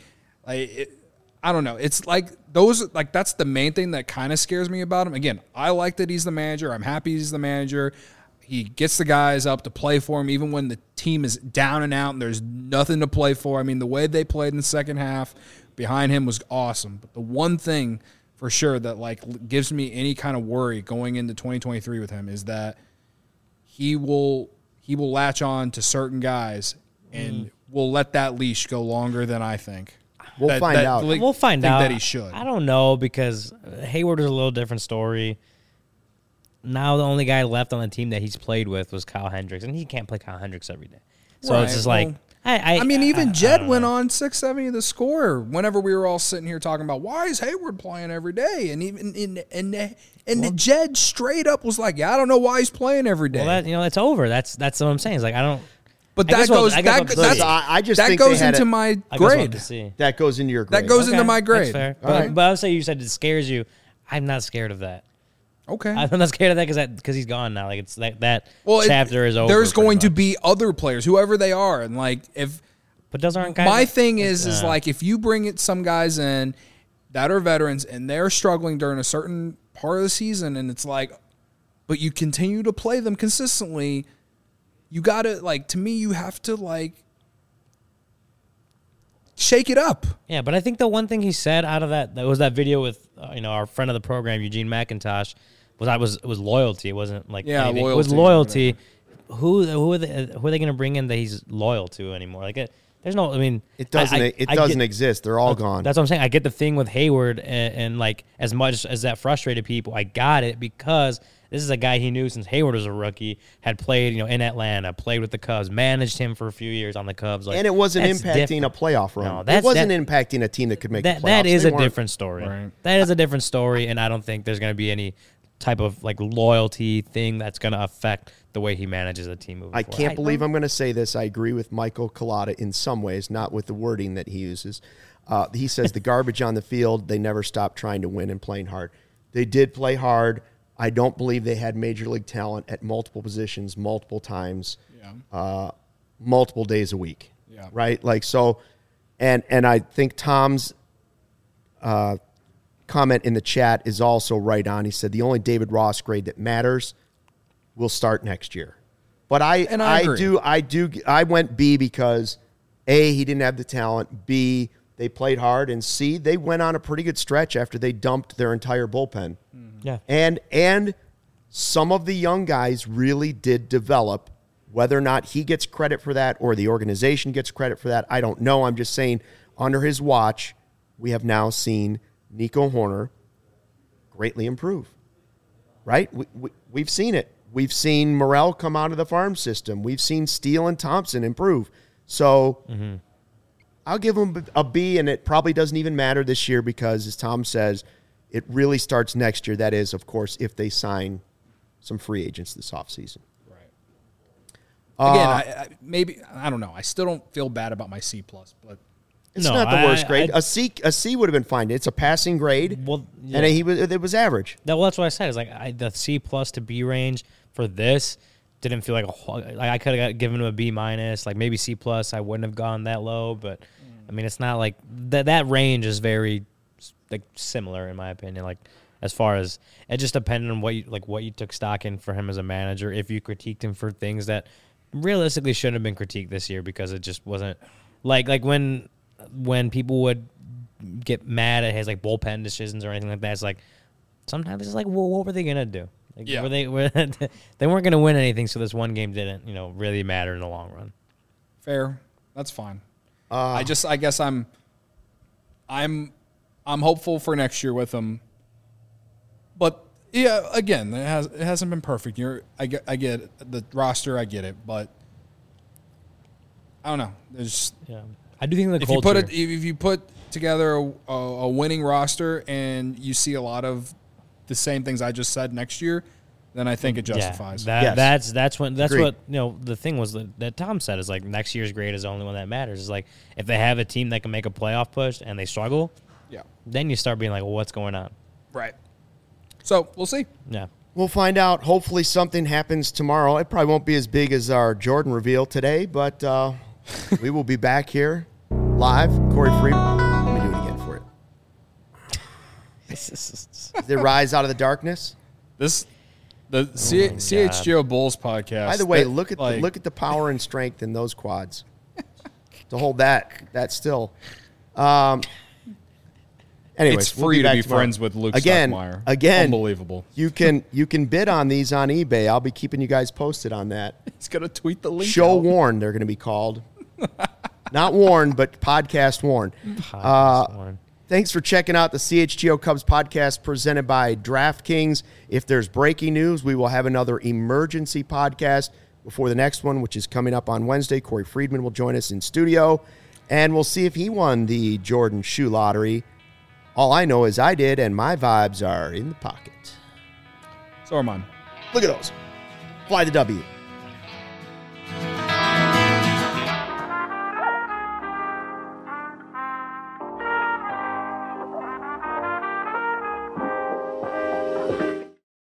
I don't know. It's like those, like, that's the main thing that kind of scares me about him. Again, I like that he's the manager. I'm happy he's the manager. He gets the guys up to play for him even when the team is down and out and there's nothing to play for. I mean, the way they played in the second half behind him was awesome. But the one thing for sure that, like, gives me any kind of worry going into 2023 with him is that he will latch on to certain guys and will let that leash go longer than I think. We'll find out. We'll find out. That he should. I don't know, because Hayward is a little different story. Now the only guy left on the team that he's played with was Kyle Hendricks, and he can't play Kyle Hendricks every day. So Right, it's just well, like I mean, even Jed went on 670 the score whenever we were all sitting here talking about why is Hayward playing every day, and even Jed straight up was like, yeah, I don't know why he's playing every day. Well, that's over. That's what I'm saying. It's like I don't. But I that guess we'll- goes I guess we'll that see. I just that think goes they had into it- my I guess we'll have grade. to see. That goes into your grade. That goes into my grade. That's fair. All right. But I would say you said it scares you. I'm not scared of that. Okay. I'm not scared of that because he's gone now. Like, it's that Well, chapter is over. There's pretty going to much. be other players, whoever they are, and like if But those aren't guys. my thing is like if you bring some guys in that are veterans and they're struggling during a certain part of the season, and it's like, but you continue to play them consistently, you gotta, like, to me, you have to, like, shake it up. Yeah, but I think the one thing he said out of that was that video with our friend of the program, Eugene McIntosh, was loyalty. It wasn't like anything. It was loyalty. Who are they going to bring in that he's loyal to anymore? Like, there's no. I mean, It doesn't exist. They're all gone. That's what I'm saying. I get the thing with Hayward, and like, as much as that frustrated people, I got it because this is a guy he knew since Hayward was a rookie, had played in Atlanta, played with the Cubs, managed him for a few years on the Cubs. Like, and it wasn't that's impacting different. a playoff run. No, it wasn't impacting a team that could make the playoffs. That is They a weren't. different story. Right. That is a different story, and I don't think there's going to be any type of like loyalty thing that's going to affect the way he manages a team moving I forward. can't believe I'm going to say this. I agree with Michael Collada in some ways, not with the wording that he uses. He says the garbage on the field, they never stopped trying to win and playing hard. They did play hard. I don't believe they had major league talent at multiple positions, multiple times, multiple days a week. Yeah. Right? Like, so, and I think Tom's comment in the chat is also right on. He said the only David Ross grade that matters will start next year. But I agree. I went B because A, he didn't have the talent, B, they played hard, and C, they went on a pretty good stretch after they dumped their entire bullpen. Yeah. And some of the young guys really did develop. Whether or not he gets credit for that or the organization gets credit for that, I don't know. I'm just saying under his watch, we have now seen Nico Hoerner greatly improve. Right? We've seen it. We've seen Morel come out of the farm system. We've seen Steele and Thompson improve. So I'll give him a B, and it probably doesn't even matter this year because, as Tom says, it really starts next year. That is, of course, if they sign some free agents this offseason. Again, maybe I don't know. I still don't feel bad about my C+, but It's not the worst grade. A C would have been fine. It's a passing grade, Well, yeah. and it was average. Well, that's what I said. Is like the C+ to B range for this didn't feel like I could have given him a B-, like maybe C+. I wouldn't have gone that low, but I mean, it's not like that range is very like similar in my opinion. Like as far as it just depended on what you took stock in for him as a manager. If you critiqued him for things that realistically shouldn't have been critiqued this year because it just wasn't like when people would get mad at his like bullpen decisions or anything like that. It's like sometimes it's like, well, what were they gonna do? Like, they weren't gonna win anything, so this one game didn't really matter in the long run. fair. That's fine. I guess I'm hopeful for next year with him. But yeah, again, it hasn't been perfect. I get the roster, I get it, but I don't know. There's I do think the if culture. if you put together a winning roster and you see a lot of the same things I just said next year, then I think it justifies. That's Agreed. what the thing was that Tom said is like next year's grade is the only one that matters. Is like if they have a team that can make a playoff push and they struggle, then you start being like, well, what's going on? Right. So we'll see. Yeah. We'll find out. Hopefully something happens tomorrow. It probably won't be as big as our Jordan reveal today, but we will be back here live. Corey Freeman. Let me do it again for you. They rise out of the darkness. The CHGO Bulls podcast. By the way, look at the power and strength in those quads to hold that still. Anyways, it's free we'll to be tomorrow. friends with Luke Again, Stockmeyer. Unbelievable. You can bid on these on eBay. I'll be keeping you guys posted on that. He's gonna tweet the link. Show out. Warn, they're going to be called. Not Warn, but Podcast Warn. Thanks for checking out the CHGO Cubs podcast presented by DraftKings. If there's breaking news, we will have another emergency podcast before the next one, which is coming up on Wednesday. Corey Friedman will join us in studio, and we'll see if he won the Jordan Shoe Lottery. All I know is I did, and my vibes are in the pocket. So are mine. Look at those. Fly the W.